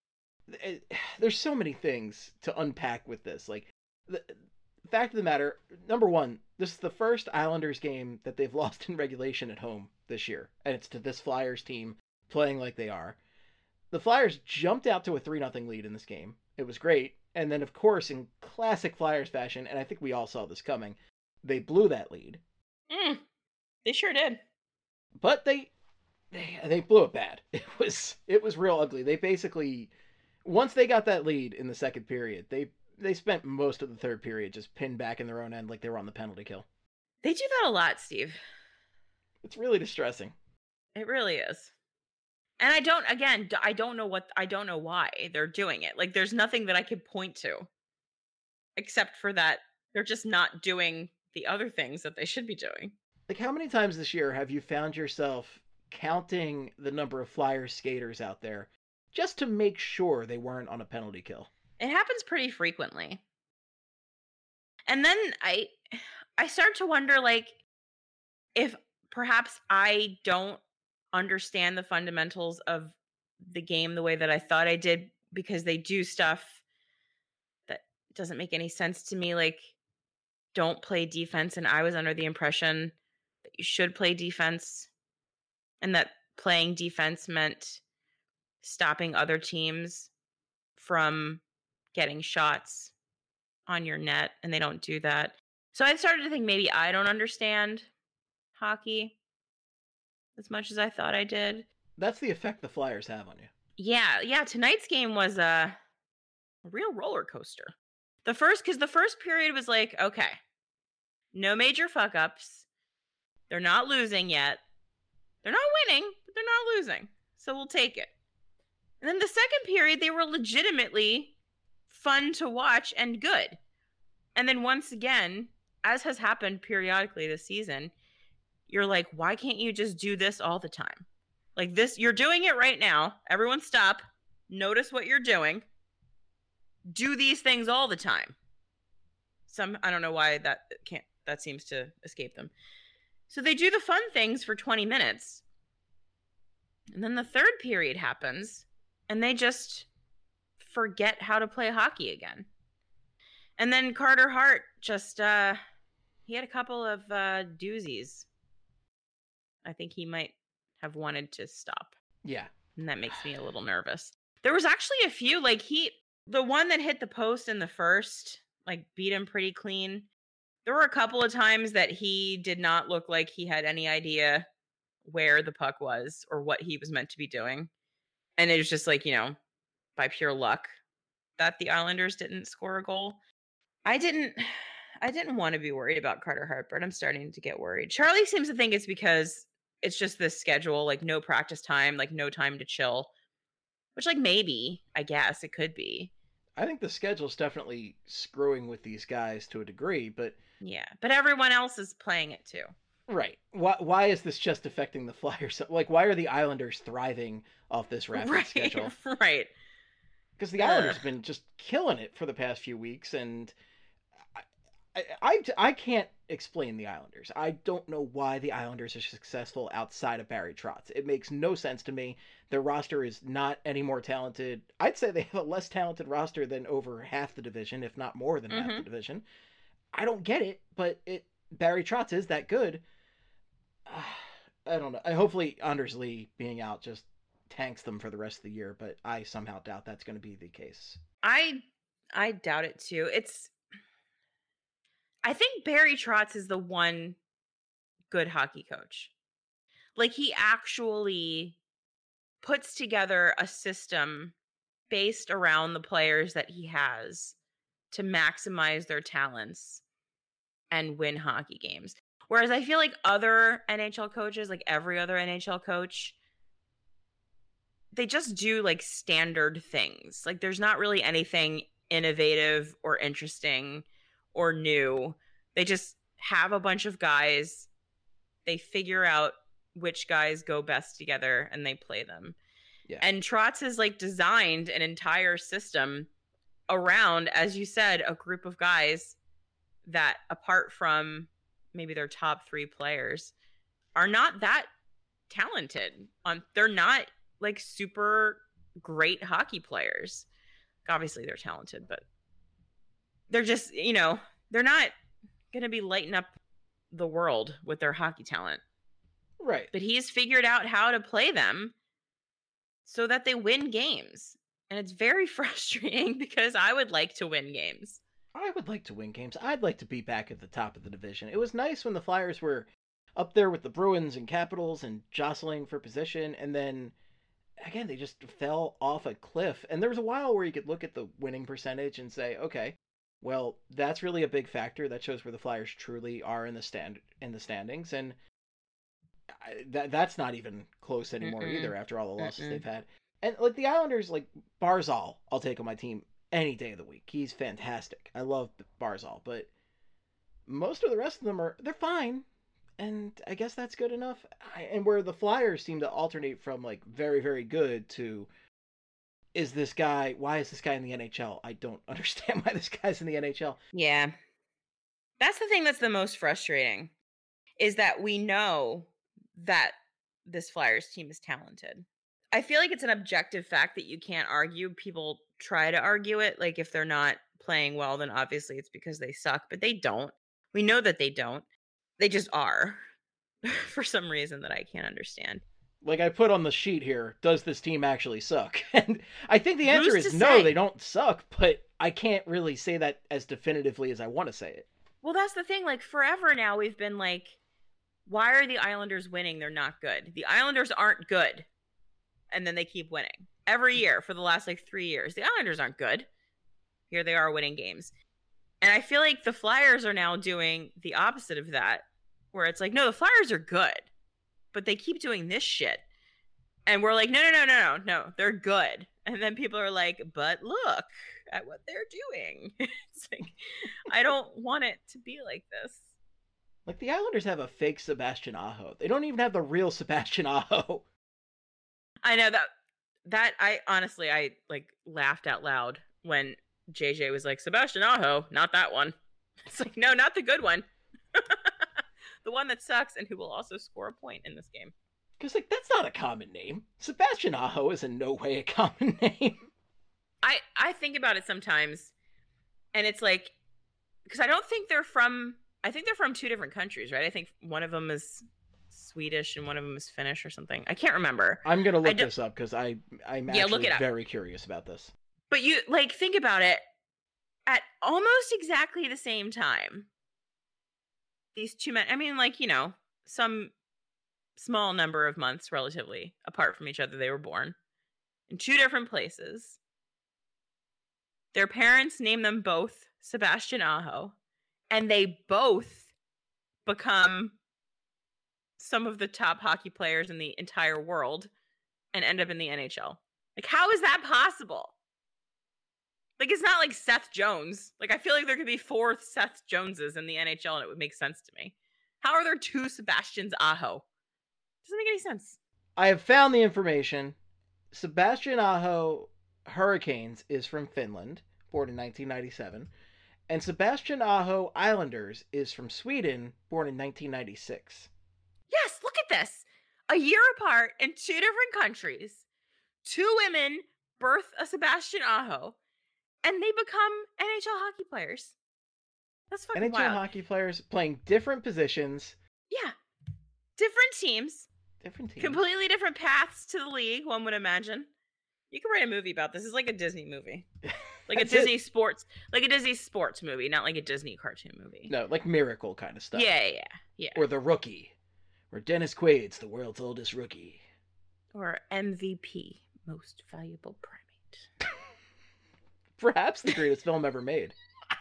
there's so many things to unpack with this. Like, the fact of the matter, number one, this is the first Islanders game that they've lost in regulation at home this year. And it's to this Flyers team playing like they are. The Flyers jumped out to a 3-0 lead in this game. It was great. And then, of course, in classic Flyers fashion, and I think we all saw this coming, they blew that lead. They sure did. But they blew it bad. It was real ugly. They basically, once they got that lead in the second period, they spent most of the third period just pinned back in their own end like they were on the penalty kill. They do that a lot, Steve. It's really distressing. It really is. And I don't know why they're doing it. Like, there's nothing that I could point to except for that they're just not doing the other things that they should be doing. Like, how many times this year have you found yourself counting the number of Flyers skaters out there just to make sure they weren't on a penalty kill? It happens pretty frequently. And then I start to wonder, like, if perhaps I don't understand the fundamentals of the game the way that I thought I did, because they do stuff that doesn't make any sense to me, like don't play defense. And I was under the impression that you should play defense, and that playing defense meant stopping other teams from getting shots on your net, and they don't do that. So I started to think maybe I don't understand hockey as much as I thought I did. That's the effect the Flyers have on you. Yeah. Tonight's game was a real roller coaster. Because the first period was like, okay, no major fuck ups. They're not losing yet. They're not winning, but they're not losing. So we'll take it. And then the second period, they were legitimately fun to watch and good. And then once again, as has happened periodically this season, you're like, why can't you just do this all the time? Like this, you're doing it right now. Everyone stop. Notice what you're doing. Do these things all the time. I don't know why that seems to escape them. So they do the fun things for 20 minutes. And then the third period happens, and they just forget how to play hockey again. And then Carter Hart just, he had a couple of doozies. I think he might have wanted to stop. Yeah. And that makes me a little nervous. There was actually a few, like the one that hit the post in the first, like beat him pretty clean. There were a couple of times that he did not look like he had any idea where the puck was or what he was meant to be doing. And it was just like, by pure luck that the Islanders didn't score a goal. I didn't want to be worried about Carter Hart, but I'm starting to get worried. Charlie seems to think it's because it's just this schedule, like no practice time, like no time to chill, which like maybe, I guess it could be. I think the schedule's definitely screwing with these guys to a degree, but yeah, but everyone else is playing it too. Right. Why is this just affecting the Flyers? Like, why are the Islanders thriving off this rapid schedule? Right. Because the Islanders have been just killing it for the past few weeks, and I can't explain the Islanders. I don't know why the Islanders are successful outside of Barry Trotz. It makes no sense to me. Their roster is not any more talented. I'd say they have a less talented roster than over half the division, if not more than half the division. I don't get it, but Barry Trotz is that good. I don't know. Hopefully Anders Lee being out just tanks them for the rest of the year, but I somehow doubt that's going to be the case. I doubt it too. I think Barry Trotz is the one good hockey coach. Like, he actually puts together a system based around the players that he has to maximize their talents and win hockey games. Whereas I feel like other NHL coaches, like every other NHL coach, they just do like standard things. Like, there's not really anything innovative or interesting or new. They just have a bunch of guys. They figure out which guys go best together and they play them. Yeah. And Trotz has like designed an entire system around, as you said, a group of guys that, apart from maybe their top 3 players, are not that talented. They're not like super great hockey players. Obviously they're talented, but they're just, they're not going to be lighting up the world with their hockey talent. Right. But he's figured out how to play them so that they win games. And it's very frustrating because I would like to win games. I would like to win games. I'd like to be back at the top of the division. It was nice when the Flyers were up there with the Bruins and Capitals and jostling for position, and then again they just fell off a cliff. And there was a while where you could look at the winning percentage and say, okay, well, that's really a big factor. That shows where the Flyers truly are in the standings, and that's not even close anymore either after all the losses they've had. And like the Islanders, like Barzal, I'll take on my team any day of the week. He's fantastic. I love Barzal, but most of the rest of them they're fine, and I guess that's good enough. And where the Flyers seem to alternate from like very, very good to why is this guy in the NHL? I don't understand why this guy's in the NHL. Yeah. That's the thing that's the most frustrating, is that we know that this Flyers team is talented. I feel like it's an objective fact that you can't argue. People try to argue it. Like, if they're not playing well, then obviously it's because they suck, but they don't. We know that they don't. They just are for some reason that I can't understand. Like I put on the sheet here, does this team actually suck? And I think the answer is no, they don't suck, but I can't really say that as definitively as I want to say it. Well, that's the thing. Like, forever now, we've been like, why are the Islanders winning? They're not good. The Islanders aren't good. And then they keep winning. Every year for the last, 3 years. The Islanders aren't good. Here they are winning games. And I feel like the Flyers are now doing the opposite of that, where it's like, no, the Flyers are good, but they keep doing this shit. And we're like, no, they're good. And then people are like, but look at what they're doing. It's like, I don't want it to be like this. Like, the Islanders have a fake Sebastian Aho. They don't even have the real Sebastian Aho. I know that I honestly, I laughed out loud when JJ was like, Sebastian Aho, not that one. It's like, no, not the good one. The one that sucks and who will also score a point in this game. Because, that's not a common name. Sebastian Aho is in no way a common name. I think about it sometimes, and it's like, because I think they're from 2 different countries, right? I think one of them is Swedish and one of them is Finnish or something. I can't remember. I'm going to look this up because I'm actually very curious about this. But you, think about it. At almost exactly the same time, these two men, I mean, like, some small number of months relatively apart from each other, they were born in two different places. Their parents named them both Sebastian Aho, and they both become some of the top hockey players in the entire world and end up in the NHL. Like, how is that possible? Like, it's not like Seth Jones. Like, I feel like there could be 4 Seth Joneses in the NHL and it would make sense to me. How are there 2 Sebastians Aho? Doesn't make any sense. I have found the information. Sebastian Aho Hurricanes is from Finland, born in 1997. And Sebastian Aho Islanders is from Sweden, born in 1996. Yes, look at this. A year apart in 2 different countries. 2 women birth a Sebastian Aho, and they become NHL hockey players. That's fucking NHL wild. hockey players playing different positions. Yeah. Different teams. Different teams. Completely different paths to the league, one would imagine. You could write a movie about this. It's like a Disney movie. Like a Disney sports movie, not like a Disney cartoon movie. No, like Miracle kind of stuff. Yeah. Or The Rookie, or Dennis Quaid's the world's oldest rookie. Or MVP, Most Valuable Primate. Perhaps the greatest film ever made.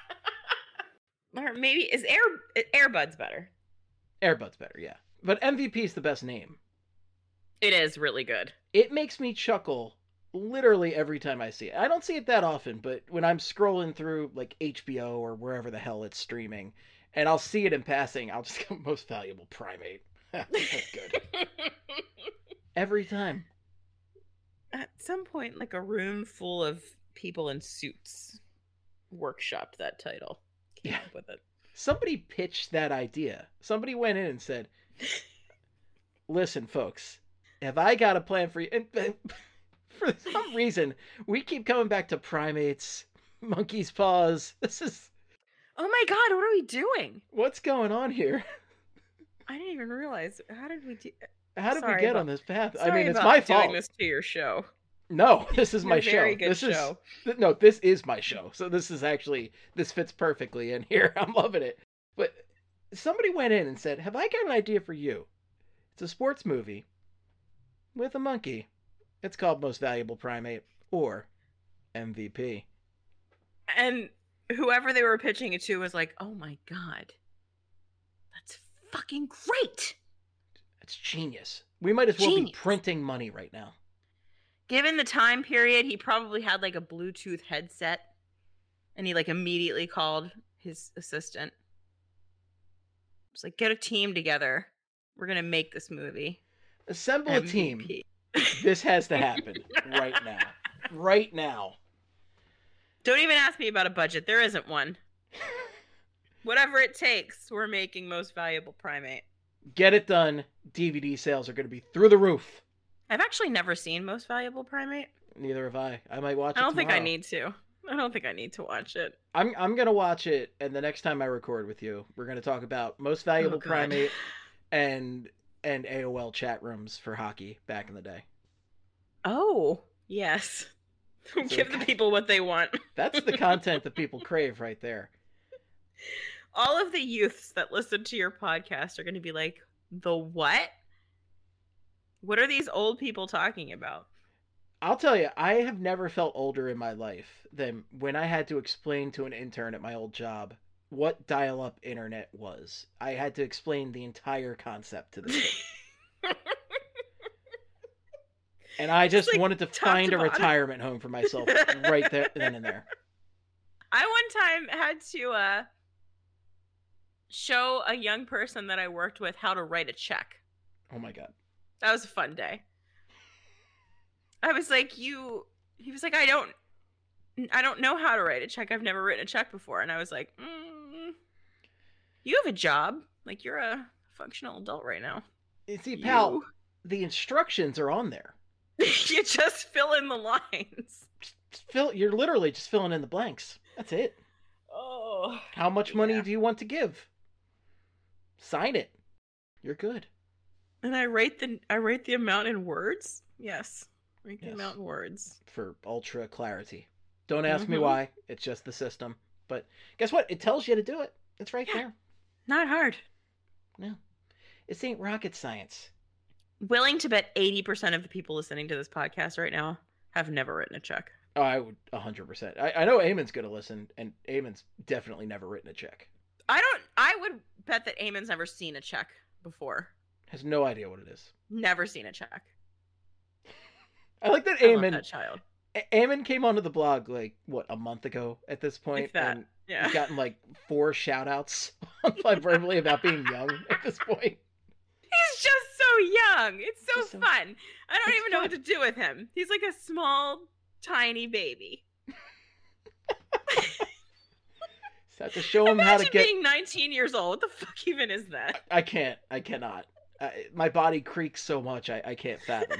Or maybe is Air Bud's better. Air Bud's better, yeah. But MVP is the best name. It is really good. It makes me chuckle literally every time I see it. I don't see it that often, but when I'm scrolling through like HBO or wherever the hell it's streaming, and I'll see it in passing, I'll just go, Most Valuable Primate. That's good. Every time. At some point, like a room full of people in suits workshopped that title. Came up with it. Somebody pitched that idea. Somebody went in and said, listen, folks, have I got a plan for you? And for some reason, we keep coming back to primates, monkey's paws. This is... Oh my god, what are we doing? What's going on here? I didn't even realize. How did we do... How did we get on this path? Sorry, I mean, it's my fault. Doing this to your show. No, this is my show. Very good show. No, this is my show. So this fits perfectly in here. I'm loving it. But somebody went in and said, have I got an idea for you? It's a sports movie with a monkey. It's called Most Valuable Primate, or MVP. And whoever they were pitching it to was like, oh my god, that's fucking great. It's genius. We might as well be printing money right now. Given the time period, he probably had like a Bluetooth headset, and he like immediately called his assistant. It's like, get a team together. We're gonna make this movie. Assemble a team. This has to happen right now. Right now. Don't even ask me about a budget. There isn't one. Whatever it takes, we're making Most Valuable Primate. Get it done. DVD sales are going to be through the roof. I've actually never seen Most Valuable Primate. Neither have I. I might watch it I don't tomorrow. think I need to. I don't think I need to watch it. I'm going to watch it, and the next time I record with you, we're going to talk about Most Valuable Primate and AOL chat rooms for hockey back in the day. Oh, yes. Give the people what they want. That's the content that people crave right there. All of the youths that listen to your podcast are going to be like, the what? What are these old people talking about? I'll tell you, I have never felt older in my life than when I had to explain to an intern at my old job what dial-up internet was. I had to explain the entire concept to this kid. And I just wanted to find a retirement home for myself right there, then and there. I one time had to show a young person that I worked with how to write a check. Oh my god. That was a fun day. I was like, he was like, I don't know how to write a check. I've never written a check before. And I was like, you have a job. Like, you're a functional adult right now. You see, pal, the instructions are on there. You just fill in the lines. You're literally just filling in the blanks. That's it. Oh. How much money do you want to give? Sign it. You're good. And I write the amount in words? Yes. Write the amount in words. For ultra clarity. Don't ask me why. It's just the system. But guess what? It tells you to do it. It's right there. Not hard. No. This ain't rocket science. Willing to bet 80% of the people listening to this podcast right now have never written a check. Oh, I would 100%. I know Eamon's going to listen, and Eamon's definitely never written a check. I would bet that Eamon's never seen a check before. Has no idea what it is. Never seen a check. I like that I love Eamon. that child. Eamon came onto the blog a month ago at this point, Like that. and Yeah. he's gotten 4 shout-outs on verbally about being young at this point. He's just so young. It's so Just so- fun. I don't It's even know fun. what to do with him. He's like a small, tiny baby. So I have to show him how to Imagine get. being 19 years old. What the fuck even is that? I can't. I cannot. My body creaks so much. I can't fathom.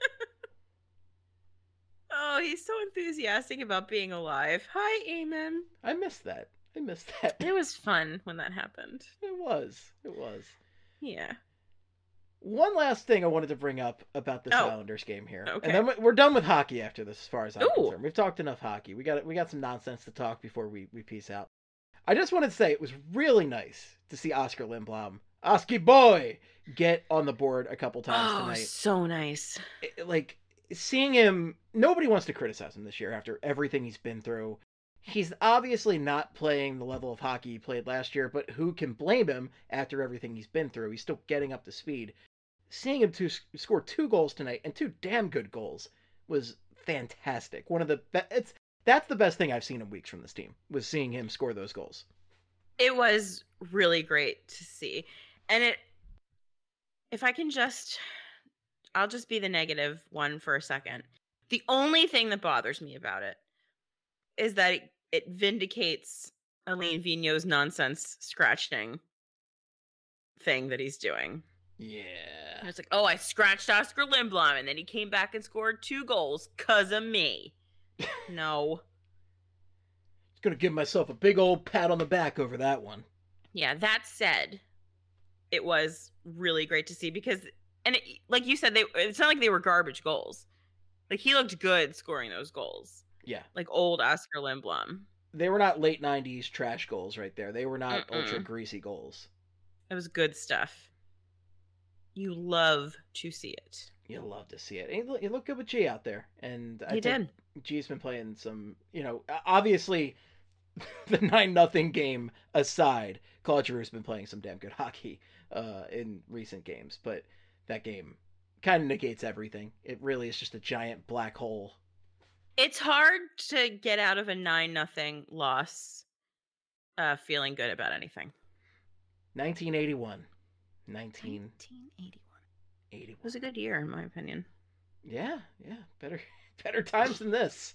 Oh, he's so enthusiastic about being alive. Hi, Eamon. I missed that. It was fun when that happened. It was. Yeah. One last thing I wanted to bring up about this Oh. Islanders game here, Okay. and then we're done with hockey after this, as far as I'm Ooh. concerned. We've talked enough hockey. We got some nonsense to talk before we peace out. I just wanted to say it was really nice to see Oscar Lindblom, Oski boy, get on the board a couple times Oh, tonight. so nice. Seeing him, nobody wants to criticize him this year after everything he's been through. He's obviously not playing the level of hockey he played last year, but who can blame him after everything he's been through? He's still getting up to speed. Seeing him score 2 goals tonight, and 2 damn good goals, was fantastic. One of the that's the best thing I've seen in weeks from this team, was seeing him score those goals. It was really great to see. And if I can I'll just be the negative one for a second. The only thing that bothers me about it is that it vindicates Alain Vigneault's nonsense scratching thing that he's doing. Yeah. And it's like, oh, I scratched Oscar Lindblom, and then he came back and scored 2 goals because of me. No. Just gonna give myself a big old pat on the back over that one. Yeah, that said, it was really great to see because, like you said, it's not like they were garbage goals. Like, he looked good scoring those goals. Yeah. Like old Oscar Lindblom. They were not late 90s trash goals right there. They were not Mm-mm. ultra greasy goals. It was good stuff. You love to see it. You love to see it. He looked good with G out there. And I He think did. G's been playing some, obviously the 9-0 game aside, Claude Giroux's been playing some damn good hockey in recent games. But that game kind of negates everything. It really is just a giant black hole. It's hard to get out of a 9-0 loss feeling good about anything. 1981. 1981. 81. It was a good year, in my opinion. Yeah. Better times than this.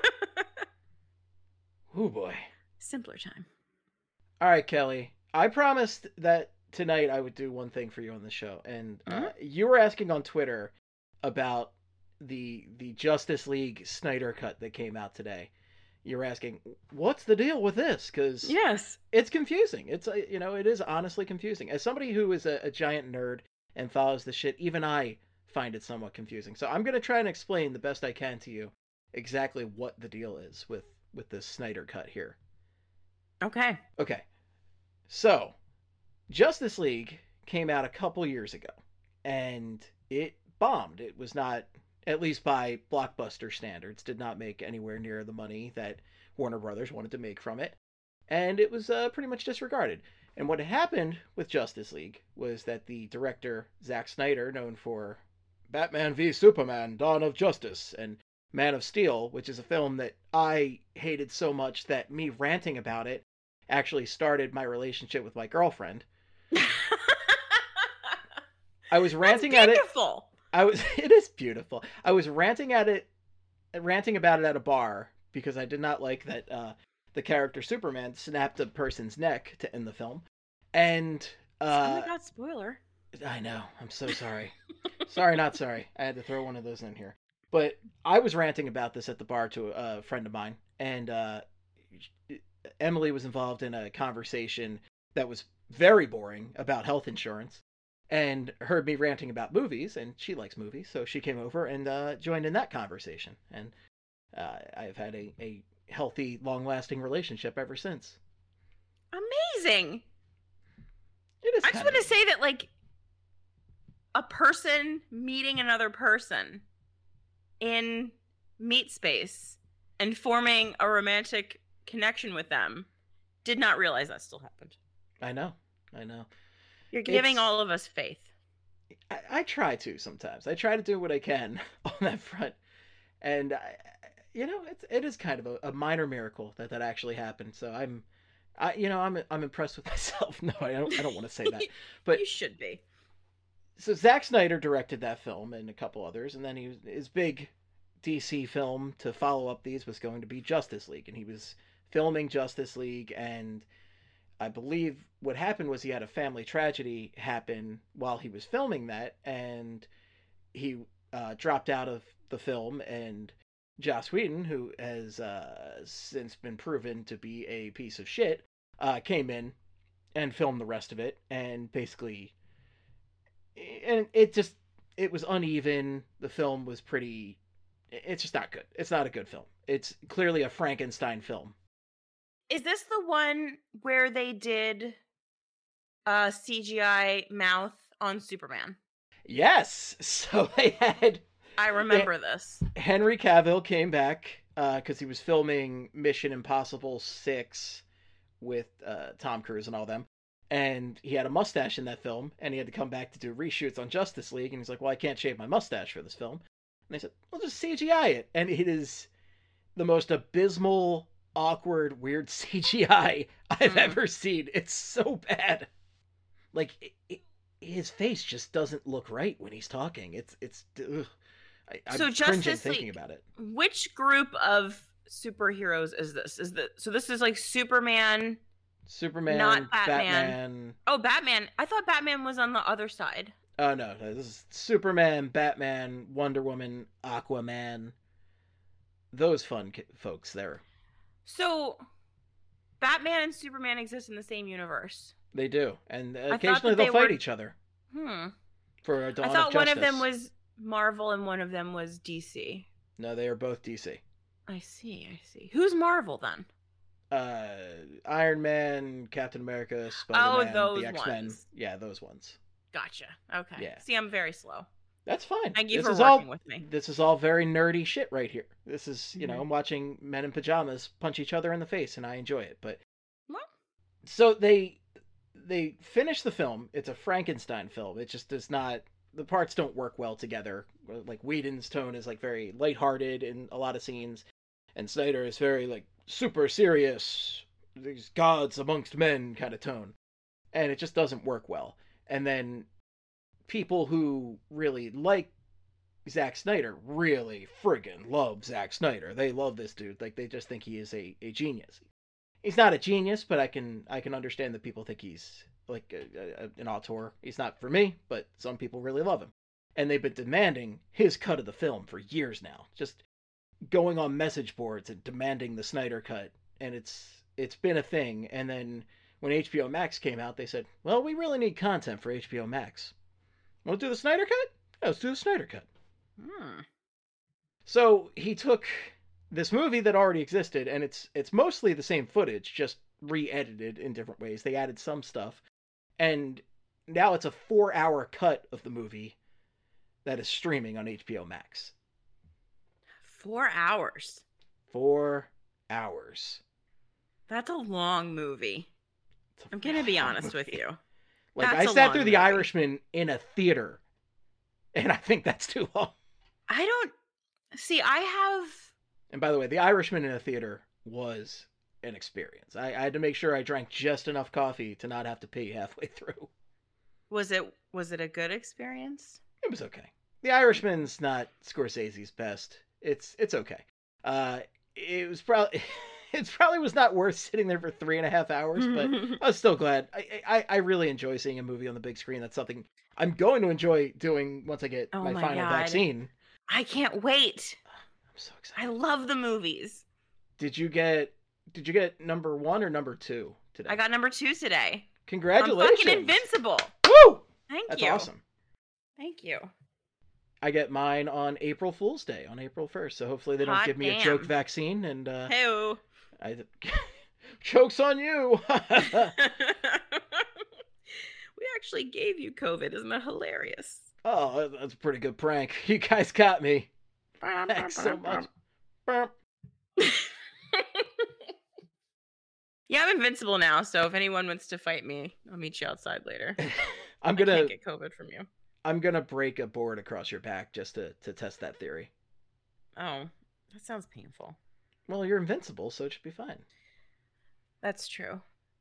Oh boy. Simpler time. All right, Kelly. I promised that tonight I would do one thing for you on the show, and you were asking on Twitter about the Justice League Snyder cut that came out today. You're asking, what's the deal with this? Because Yes. it's confusing. It's it is honestly confusing. As somebody who is a giant nerd and follows the shit, even I find it somewhat confusing. So I'm gonna try and explain the best I can to you exactly what the deal is with this Snyder cut here. Okay. Okay. So, Justice League came out a couple years ago, and it bombed. It was not, at least by blockbuster standards, did not make anywhere near the money that Warner Brothers wanted to make from it, and it was pretty much disregarded. And what happened with Justice League was that the director, Zack Snyder, known for Batman v Superman, Dawn of Justice, and Man of Steel, which is a film that I hated so much that me ranting about it actually started my relationship with my girlfriend. I was ranting at it. Beautiful. It is beautiful. I was ranting about it at a bar because I did not like that the character Superman snapped a person's neck to end the film. And Oh my god, spoiler. I know. I'm so sorry. Sorry, not sorry. I had to throw one of those in here. But I was ranting about this at the bar to a friend of mine, and Emily was involved in a conversation that was very boring about health insurance, and heard me ranting about movies, and she likes movies, so she came over and joined in that conversation. And I've had a healthy, long-lasting relationship ever since. Amazing. It is. I just want to say that, like, a person meeting another person in meat space and forming a romantic connection with them, did not realize that still happened. I know. You're giving all of us faith. I try to sometimes. I try to do what I can on that front, and it is kind of a minor miracle that actually happened. So I'm impressed with myself. No, I don't want to say that, but you should be. So Zack Snyder directed that film and a couple others, and then his big DC film to follow up these was going to be Justice League, and he was filming Justice League, and I believe what happened was he had a family tragedy happen while he was filming that, and he dropped out of the film, and Joss Whedon, who has since been proven to be a piece of shit, came in and filmed the rest of it, and basically, and it was uneven. The film was it's just not good. It's not a good film. It's clearly a Frankenstein film. Is this the one where they did a CGI mouth on Superman? Yes. So they had... I remember this. Henry Cavill came back because he was filming Mission Impossible 6 with Tom Cruise and all them. And he had a mustache in that film, and he had to come back to do reshoots on Justice League. And he's like, well, I can't shave my mustache for this film. And they said, well, just CGI it. And it is the most abysmal, awkward, weird CGI I've ever seen. It's so bad. Like, his face just doesn't look right when he's talking. I'm cringing thinking about it. Which group of superheroes is this? So this is like Superman, not Batman. Oh, Batman. I thought Batman was on the other side. Oh, no. This is Superman, Batman, Wonder Woman, Aquaman. Those fun folks there. So, Batman and Superman exist in the same universe. They do. And occasionally they'll fight each other. For a Dawn of Justice. I thought one of them was Marvel and one of them was DC. No, they are both DC. I see. Who's Marvel then? Iron Man, Captain America, Spider-Man, those the X-Men. ones. Yeah, those ones. Gotcha. Okay. Yeah. See, I'm very slow. That's fine. Thank you for working with me. This is all very nerdy shit right here. This is, I'm watching men in pajamas punch each other in the face, and I enjoy it. But so they finish the film. It's a Frankenstein film. It just does not. The parts don't work well together. Like Whedon's tone is like very lighthearted in a lot of scenes, and Snyder is very like super serious, these gods amongst men kind of tone, and it just doesn't work well. And then people who really like Zack Snyder really friggin' love Zack Snyder. They love this dude. Like, they just think he is a genius. He's not a genius, but I can understand that people think he's like an auteur. He's not for me, but some people really love him. And they've been demanding his cut of the film for years now. Just going on message boards and demanding the Snyder cut. And it's been a thing. And then when HBO Max came out, they said, well, we really need content for HBO Max. Want to do the Snyder cut? Yeah, let's do the Snyder cut. So he took this movie that already existed, and it's mostly the same footage, just re-edited in different ways. They added some stuff. And now it's a 4-hour cut of the movie that is streaming on HBO Max. 4 hours? 4 hours. That's a long movie. I'm going to be honest with you. Like, I sat through The Irishman in a theater, and I think that's too long. I don't... See, I have... And by the way, The Irishman in a theater was an experience. I had to make sure I drank just enough coffee to not have to pee halfway through. Was it a good experience? It was okay. The Irishman's not Scorsese's best. It's okay. It was probably... It probably was not worth sitting there for 3.5 hours, but I was still glad. I really enjoy seeing a movie on the big screen. That's something I'm going to enjoy doing once I get my final vaccine. I can't wait. I'm so excited. I love the movies. Did you get number 1 or number 2 today? I got number 2 today. Congratulations. I'm fucking invincible. Woo! Thank you. That's awesome. Thank you. I get mine on April Fool's Day, on Aprul 1st. So hopefully they don't give me a joke vaccine. And Hey-o. Joke's on you. We actually gave you COVID. Isn't that hilarious? Oh, that's a pretty good prank. You guys got me. Thanks so much. Yeah, I'm invincible now, so if anyone wants to fight me, I'll meet you outside later. I can't get COVID from you. I'm gonna break a board across your back just to test that theory. Oh, that sounds painful. Well, you're invincible, so it should be fine. That's true.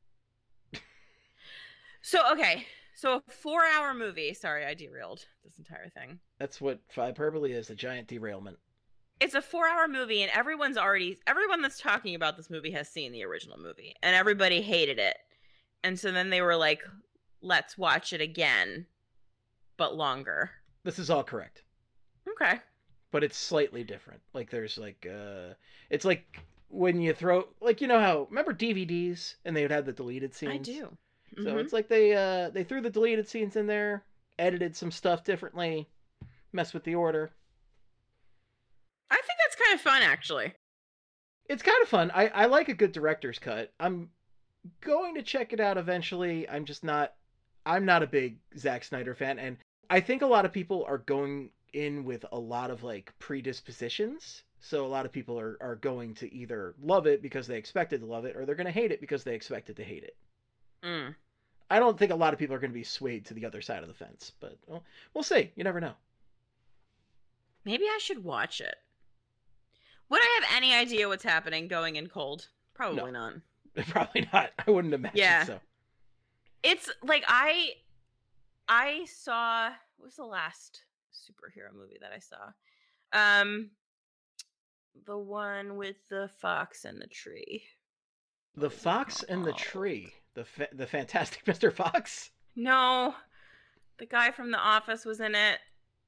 So, okay. So a 4-hour movie. Sorry, I derailed this entire thing. That's what hyperbole is, a giant derailment. It's a 4-hour movie, and everyone that's talking about this movie has seen the original movie, and everybody hated it. And so then they were like, let's watch it again, but longer. This is all correct. Okay. But it's slightly different. Like, there's like, it's like when you throw, like, you know how, remember DVDs, and they would have the deleted scenes? I do. So it's like they threw the deleted scenes in there, edited some stuff differently, messed with the order. I think that's kind of fun, actually. It's kind of fun. I like a good director's cut. I'm going to check it out eventually. I'm not a big Zack Snyder fan, and I think a lot of people are going in with a lot of like predispositions. So a lot of people are going to either love it because they expected to love it, or they're going to hate it because they expected to hate it. I don't think a lot of people are going to be swayed to the other side of the fence, but we'll see. You never know. Maybe I should watch it. Would I have any idea what's happening going in cold? Probably not. Probably not. I wouldn't imagine so. It's like I saw, what was the last superhero movie that I saw? The one with the fox and the tree. The Fox and the Tree. The Fantastic Mr. Fox? No. The guy from The Office was in it.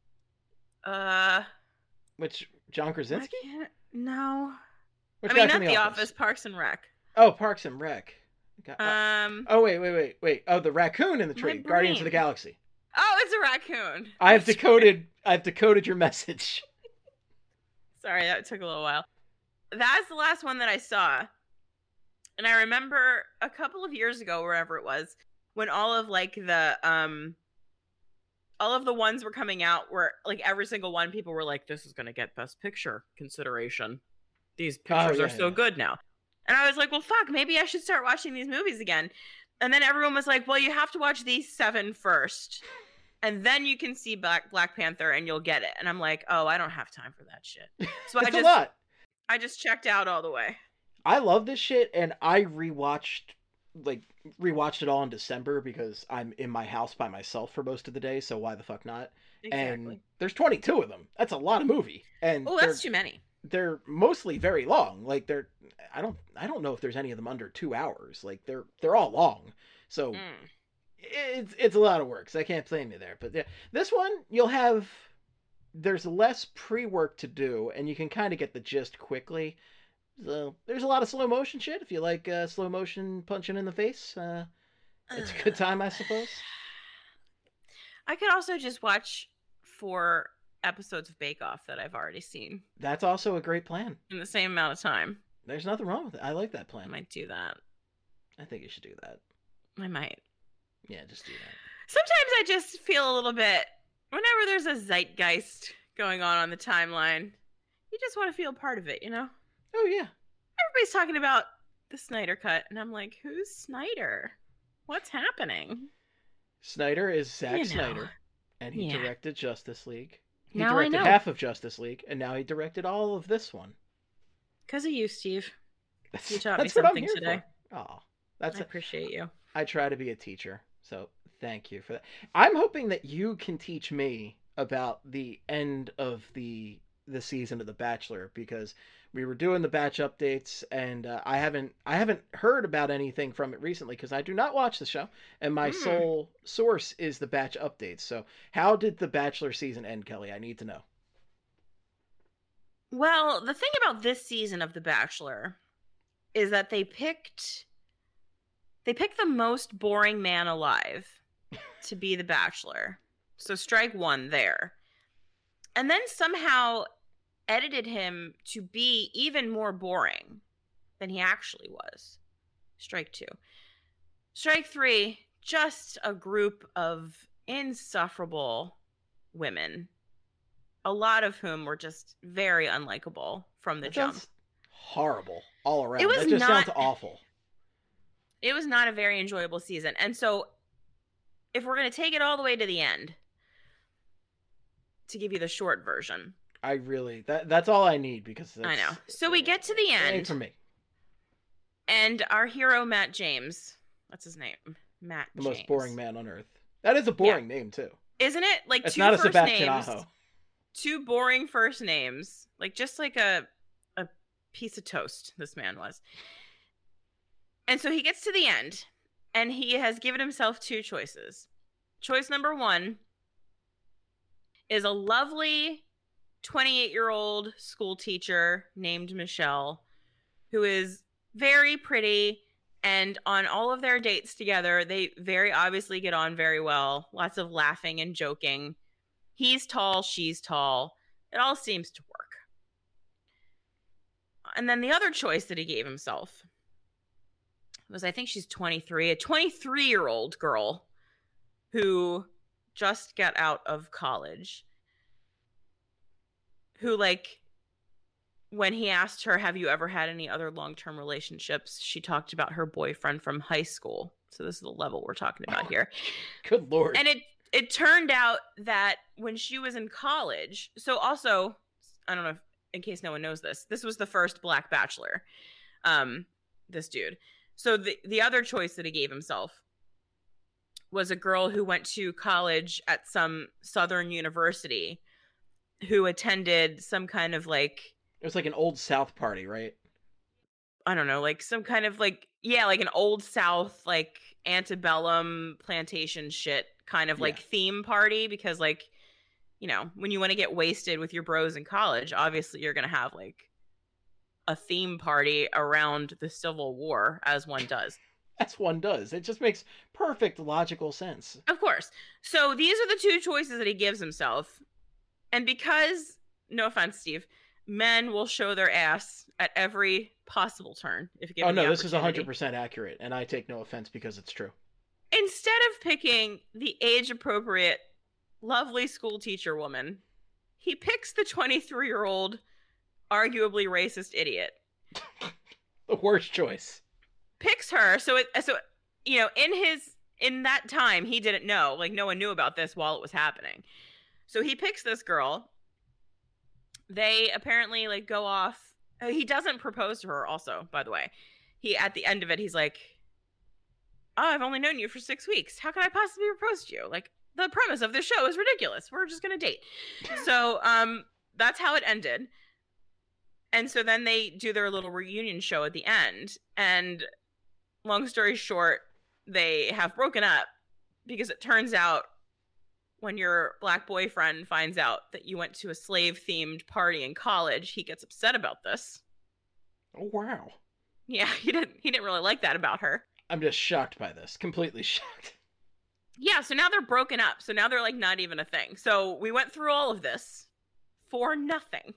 Which, John Krasinski? No. Which I guy mean, from not The Office, Parks and Rec. Oh, Parks and Rec. Oh, wait. Oh, the raccoon in the tree. Guardians of the Galaxy. Oh, it's a raccoon. I've decoded your message. Sorry, that took a little while. That's the last one that I saw. And I remember a couple of years ago, wherever it was, when all of the ones were coming out, where like every single one, people were like, this is going to get Best Picture consideration. These pictures are so good now. And I was like, well, fuck, maybe I should start watching these movies again. And then everyone was like, well, you have to watch these 7 first. And then you can see Black Panther and you'll get it. And I'm like, oh, I don't have time for that shit. So I just checked out all the way. I love this shit, and I rewatched it all in December because I'm in my house by myself for most of the day, so why the fuck not? Exactly. And there's 22 of them. That's a lot of movie. And that's too many. They're mostly very long. Like I don't know if there's any of them under 2 hours. Like they're all long. So it's a lot of work. So I can't blame you there. But yeah, this one there's less pre-work to do, and you can kind of get the gist quickly. So there's a lot of slow motion shit. If you like slow motion punching in the face, it's a good time, I suppose. I could also just watch 4 episodes of Bake Off that I've already seen. That's also a great plan. In the same amount of time. There's nothing wrong with it. I like that plan. I might do that. I think you should do that. I might. Yeah, just do that. Sometimes I just feel a little bit, whenever there's a zeitgeist going on the timeline, you just want to feel part of it, you know? Oh, yeah. Everybody's talking about the Snyder Cut, and I'm like, who's Snyder? What's happening? Snyder is Zack Snyder, and he directed Justice League. He now directed I know. half of Justice League, and now he directed all of this one. Because of you, Steve. You taught me That's what I'm something here today. For. Oh, I appreciate you. I try to be a teacher, so thank you for that. I'm hoping that you can teach me about the end of the season of The Bachelor, because we were doing the batch updates, and I haven't heard about anything from it recently because I do not watch the show, and my sole source is the batch updates. So how did the Bachelor season end, Kelly? I need to know. Well, the thing about this season of The Bachelor is that they picked the most boring man alive to be the Bachelor. So strike 1 there. And then somehow edited him to be even more boring than he actually was. Strike 2. Strike 3, just a group of insufferable women, a lot of whom were just very unlikable from the jump. Horrible all around. It was that just not, sounds awful. It was not a very enjoyable season. And so if we're going to take it all the way to the end, to give you the short version. That's all I need, because I know. So we get to the end. For me. And our hero, Matt James, that's his name, Matt James. The most boring man on earth. That is a boring name, too. Isn't it? Like, it's two not a first Sebastian names. Aho. Two boring first names. Like, just like a piece of toast, this man was. And so he gets to the end, and he has given himself two choices. Choice number one is a lovely 28-year-old school teacher named Michelle, who is very pretty, and on all of their dates together, they very obviously get on very well. Lots of laughing and joking. He's tall, she's tall. It all seems to work. And then the other choice that he gave himself was, I think she's 23, a 23-year-old girl who just got out of college, who, like, when he asked her, have you ever had any other long-term relationships, she talked about her boyfriend from high school. So this is the level we're talking about here. Good Lord. And it turned out that when she was in college, so also, I don't know if, in case no one knows this was the first Black Bachelor, this dude. So the other choice that he gave himself was a girl who went to college at some Southern university, who attended some kind of, like... It was like an Old South party, right? I don't know, like some kind of, like, yeah, like an Old South, like, antebellum plantation shit kind of, like, theme party, because, like, you know, when you want to get wasted with your bros in college, obviously you're going to have, like, a theme party around the Civil War, as one does. As one does. It just makes perfect logical sense. Of course. So these are the two choices that he gives himself. And because, no offense, Steve, men will show their ass at every possible turn. If given the this is opportunity. 100% accurate, and I take no offense because it's true. Instead of picking the age-appropriate, lovely school teacher woman, he picks the 23-year-old, arguably racist idiot. The worst choice. Picks her, so you know, in that time, he didn't know. Like, no one knew about this while it was happening. So he picks this girl. They apparently, like, go off. He doesn't propose to her, also, by the way. At the end of it, he's like, oh, I've only known you for 6 weeks. How can I possibly propose to you? Like, the premise of this show is ridiculous. We're just going to date. So, that's how it ended. And so then they do their little reunion show at the end. And long story short, they have broken up because it turns out when your Black boyfriend finds out that you went to a slave-themed party in college, he gets upset about this. Oh, wow. Yeah, he didn't really like that about her. I'm just shocked by this. Completely shocked. Yeah, so now they're broken up. So now they're, like, not even a thing. So we went through all of this for nothing.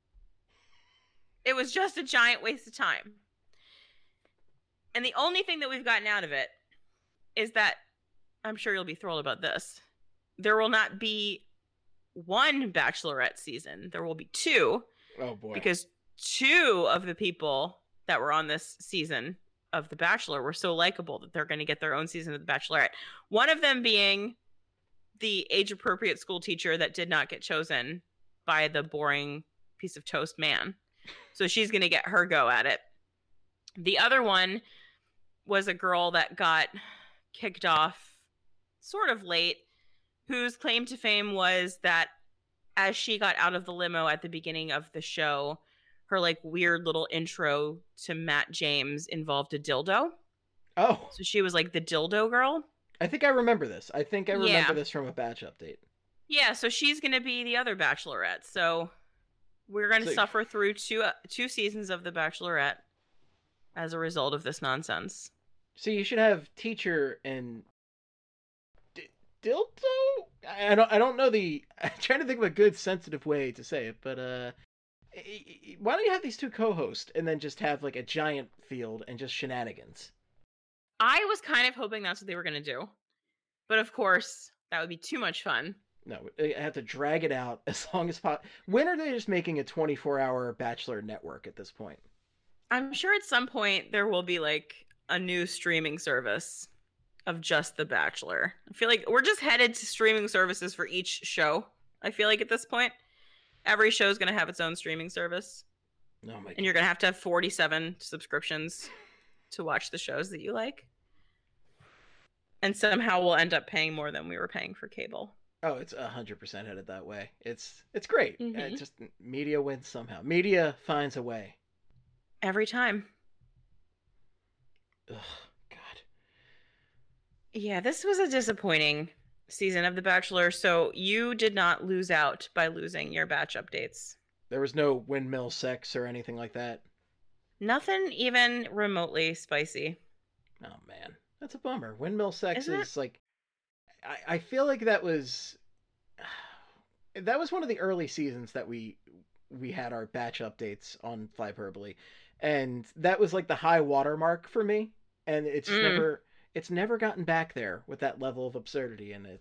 It was just a giant waste of time. And the only thing that we've gotten out of it is that, I'm sure you'll be thrilled about this, there will not be one Bachelorette season. There will be two. Oh, boy. Because two of the people that were on this season of The Bachelor were so likable that they're going to get their own season of The Bachelorette. One of them being the age-appropriate school teacher that did not get chosen by the boring piece of toast man. So she's going to get her go at it. The other one was a girl that got kicked off sort of late, whose claim to fame was that as she got out of the limo at the beginning of the show, her, like, weird little intro to Matt James involved a dildo. Oh. So she was, like, the dildo girl. I think I remember this. I remember this from a batch update. Yeah, so she's going to be the other Bachelorette. So we're going to suffer through two seasons of The Bachelorette as a result of this nonsense. So you should have teacher and dildo? I don't know I'm trying to think of a good sensitive way to say it, but why don't you have these two co-hosts and then just have, like, a giant field and just shenanigans? I was kind of hoping that's what they were going to do. But of course, that would be too much fun. No, they have to drag it out as long as possible. When are they just making a 24-hour Bachelor network at this point? I'm sure at some point there will be like a new streaming service of just The Bachelor. I feel like we're just headed to streaming services for each show. I feel like at this point, every show is going to have its own streaming service. Oh my God. And you're going to have 47 subscriptions to watch the shows that you like. And somehow we'll end up paying more than we were paying for cable. Oh, it's 100% headed that way. It's great. Mm-hmm. It's just media wins somehow. Media finds a way. Every time. Ugh, God. Yeah, this was a disappointing season of The Bachelor. So you did not lose out by losing your batch updates. There was no windmill sex or anything like that. Nothing even remotely spicy. Oh, man. That's a bummer. Windmill sex Isn't is like... I feel like that was one of the early seasons that we had our batch updates on Flyperbole, and that was like the high watermark for me, and it's never gotten back there with that level of absurdity, and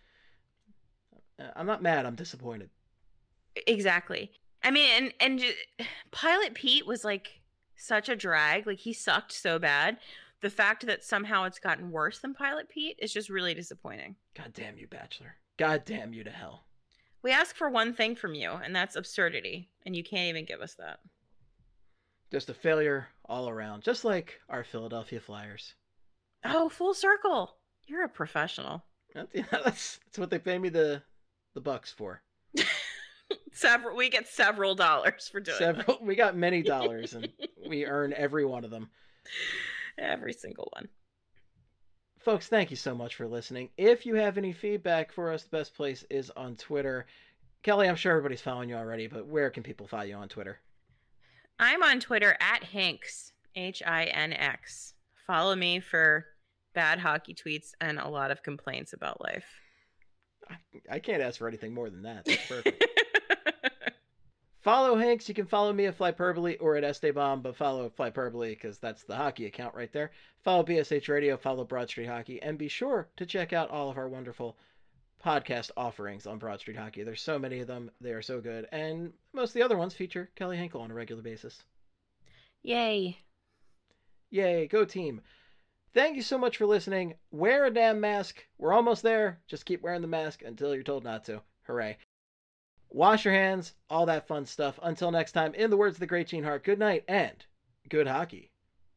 I'm not mad, I'm disappointed. Exactly. I mean, and Pilot Pete was like such a drag. Like, he sucked so bad. The fact that somehow it's gotten worse than Pilot Pete is just really disappointing. God damn you, Bachelor. God damn you to hell. We ask for one thing from you, and that's absurdity, and you can't even give us that. Just a failure all around, just like our Philadelphia Flyers. Oh, full circle. You're a professional. That's what they pay me the bucks for. We get several dollars for doing that. We got many dollars, and we earn every one of them. Every single one. Folks, thank you so much for listening. If you have any feedback for us, the best place is on Twitter. Kelly, I'm sure everybody's following you already, but where can people follow you on Twitter? I'm on Twitter at Hinx, Hinx. Follow me for bad hockey tweets and a lot of complaints about life. I can't ask for anything more than that. That's perfect. Follow Hinx. You can follow me at Flyperbole or at Esteban, but follow Flyperbole because that's the hockey account right there. Follow BSH Radio, follow Broad Street Hockey, and be sure to check out all of our wonderful podcast offerings on Broad Street Hockey. There's so many of them. They are so good. And most of the other ones feature Kelly Hinkle on a regular basis. Yay. Yay, go team. Thank you so much for listening. Wear a damn mask. We're almost there. Just keep wearing the mask until you're told not to. Hooray. Wash your hands, all that fun stuff. Until next time, in the words of the great Gene Hart, good night and good hockey.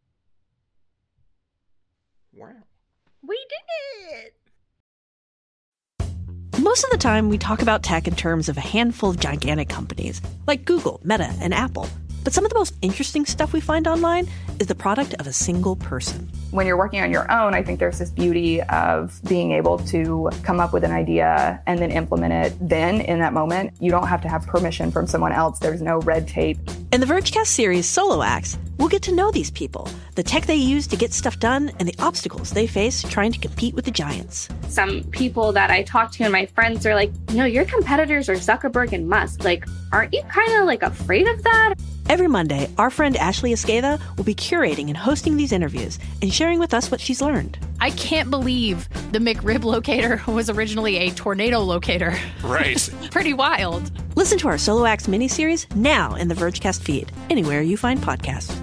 Wow. We did it! Most of the time, we talk about tech in terms of a handful of gigantic companies, like Google, Meta, and Apple. But some of the most interesting stuff we find online is the product of a single person. When you're working on your own, I think there's this beauty of being able to come up with an idea and then implement it then in that moment. You don't have to have permission from someone else. There's no red tape. In the Vergecast series Solo Acts, we'll get to know these people, the tech they use to get stuff done, and the obstacles they face trying to compete with the giants. Some people that I talk to and my friends are like, your competitors are Zuckerberg and Musk. Like, aren't you kind of like afraid of that? Every Monday, our friend Ashley Esqueda will be curating and hosting these interviews and sharing with us what she's learned. I can't believe the McRib locator was originally a tornado locator. Right. Pretty wild. Listen to our Solo Acts miniseries now in the Vergecast feed, anywhere you find podcasts.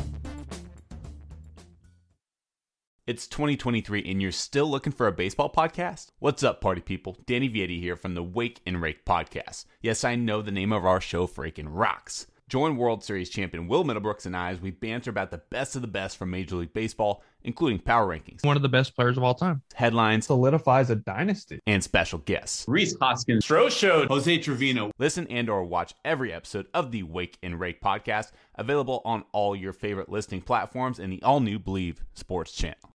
It's 2023 and you're still looking for a baseball podcast? What's up, party people? Danny Vietti here from the Wake and Rake podcast. Yes, I know the name of our show freaking rocks. Join World Series champion Will Middlebrooks and I as we banter about the best of the best from Major League Baseball, including power rankings, one of the best players of all time, headlines, solidifies a dynasty, and special guests. Rhys Hoskins, Stroh showed Jose Trevino. Listen and or watch every episode of the Wake and Rake podcast, available on all your favorite listening platforms and the all-new Believe Sports channel.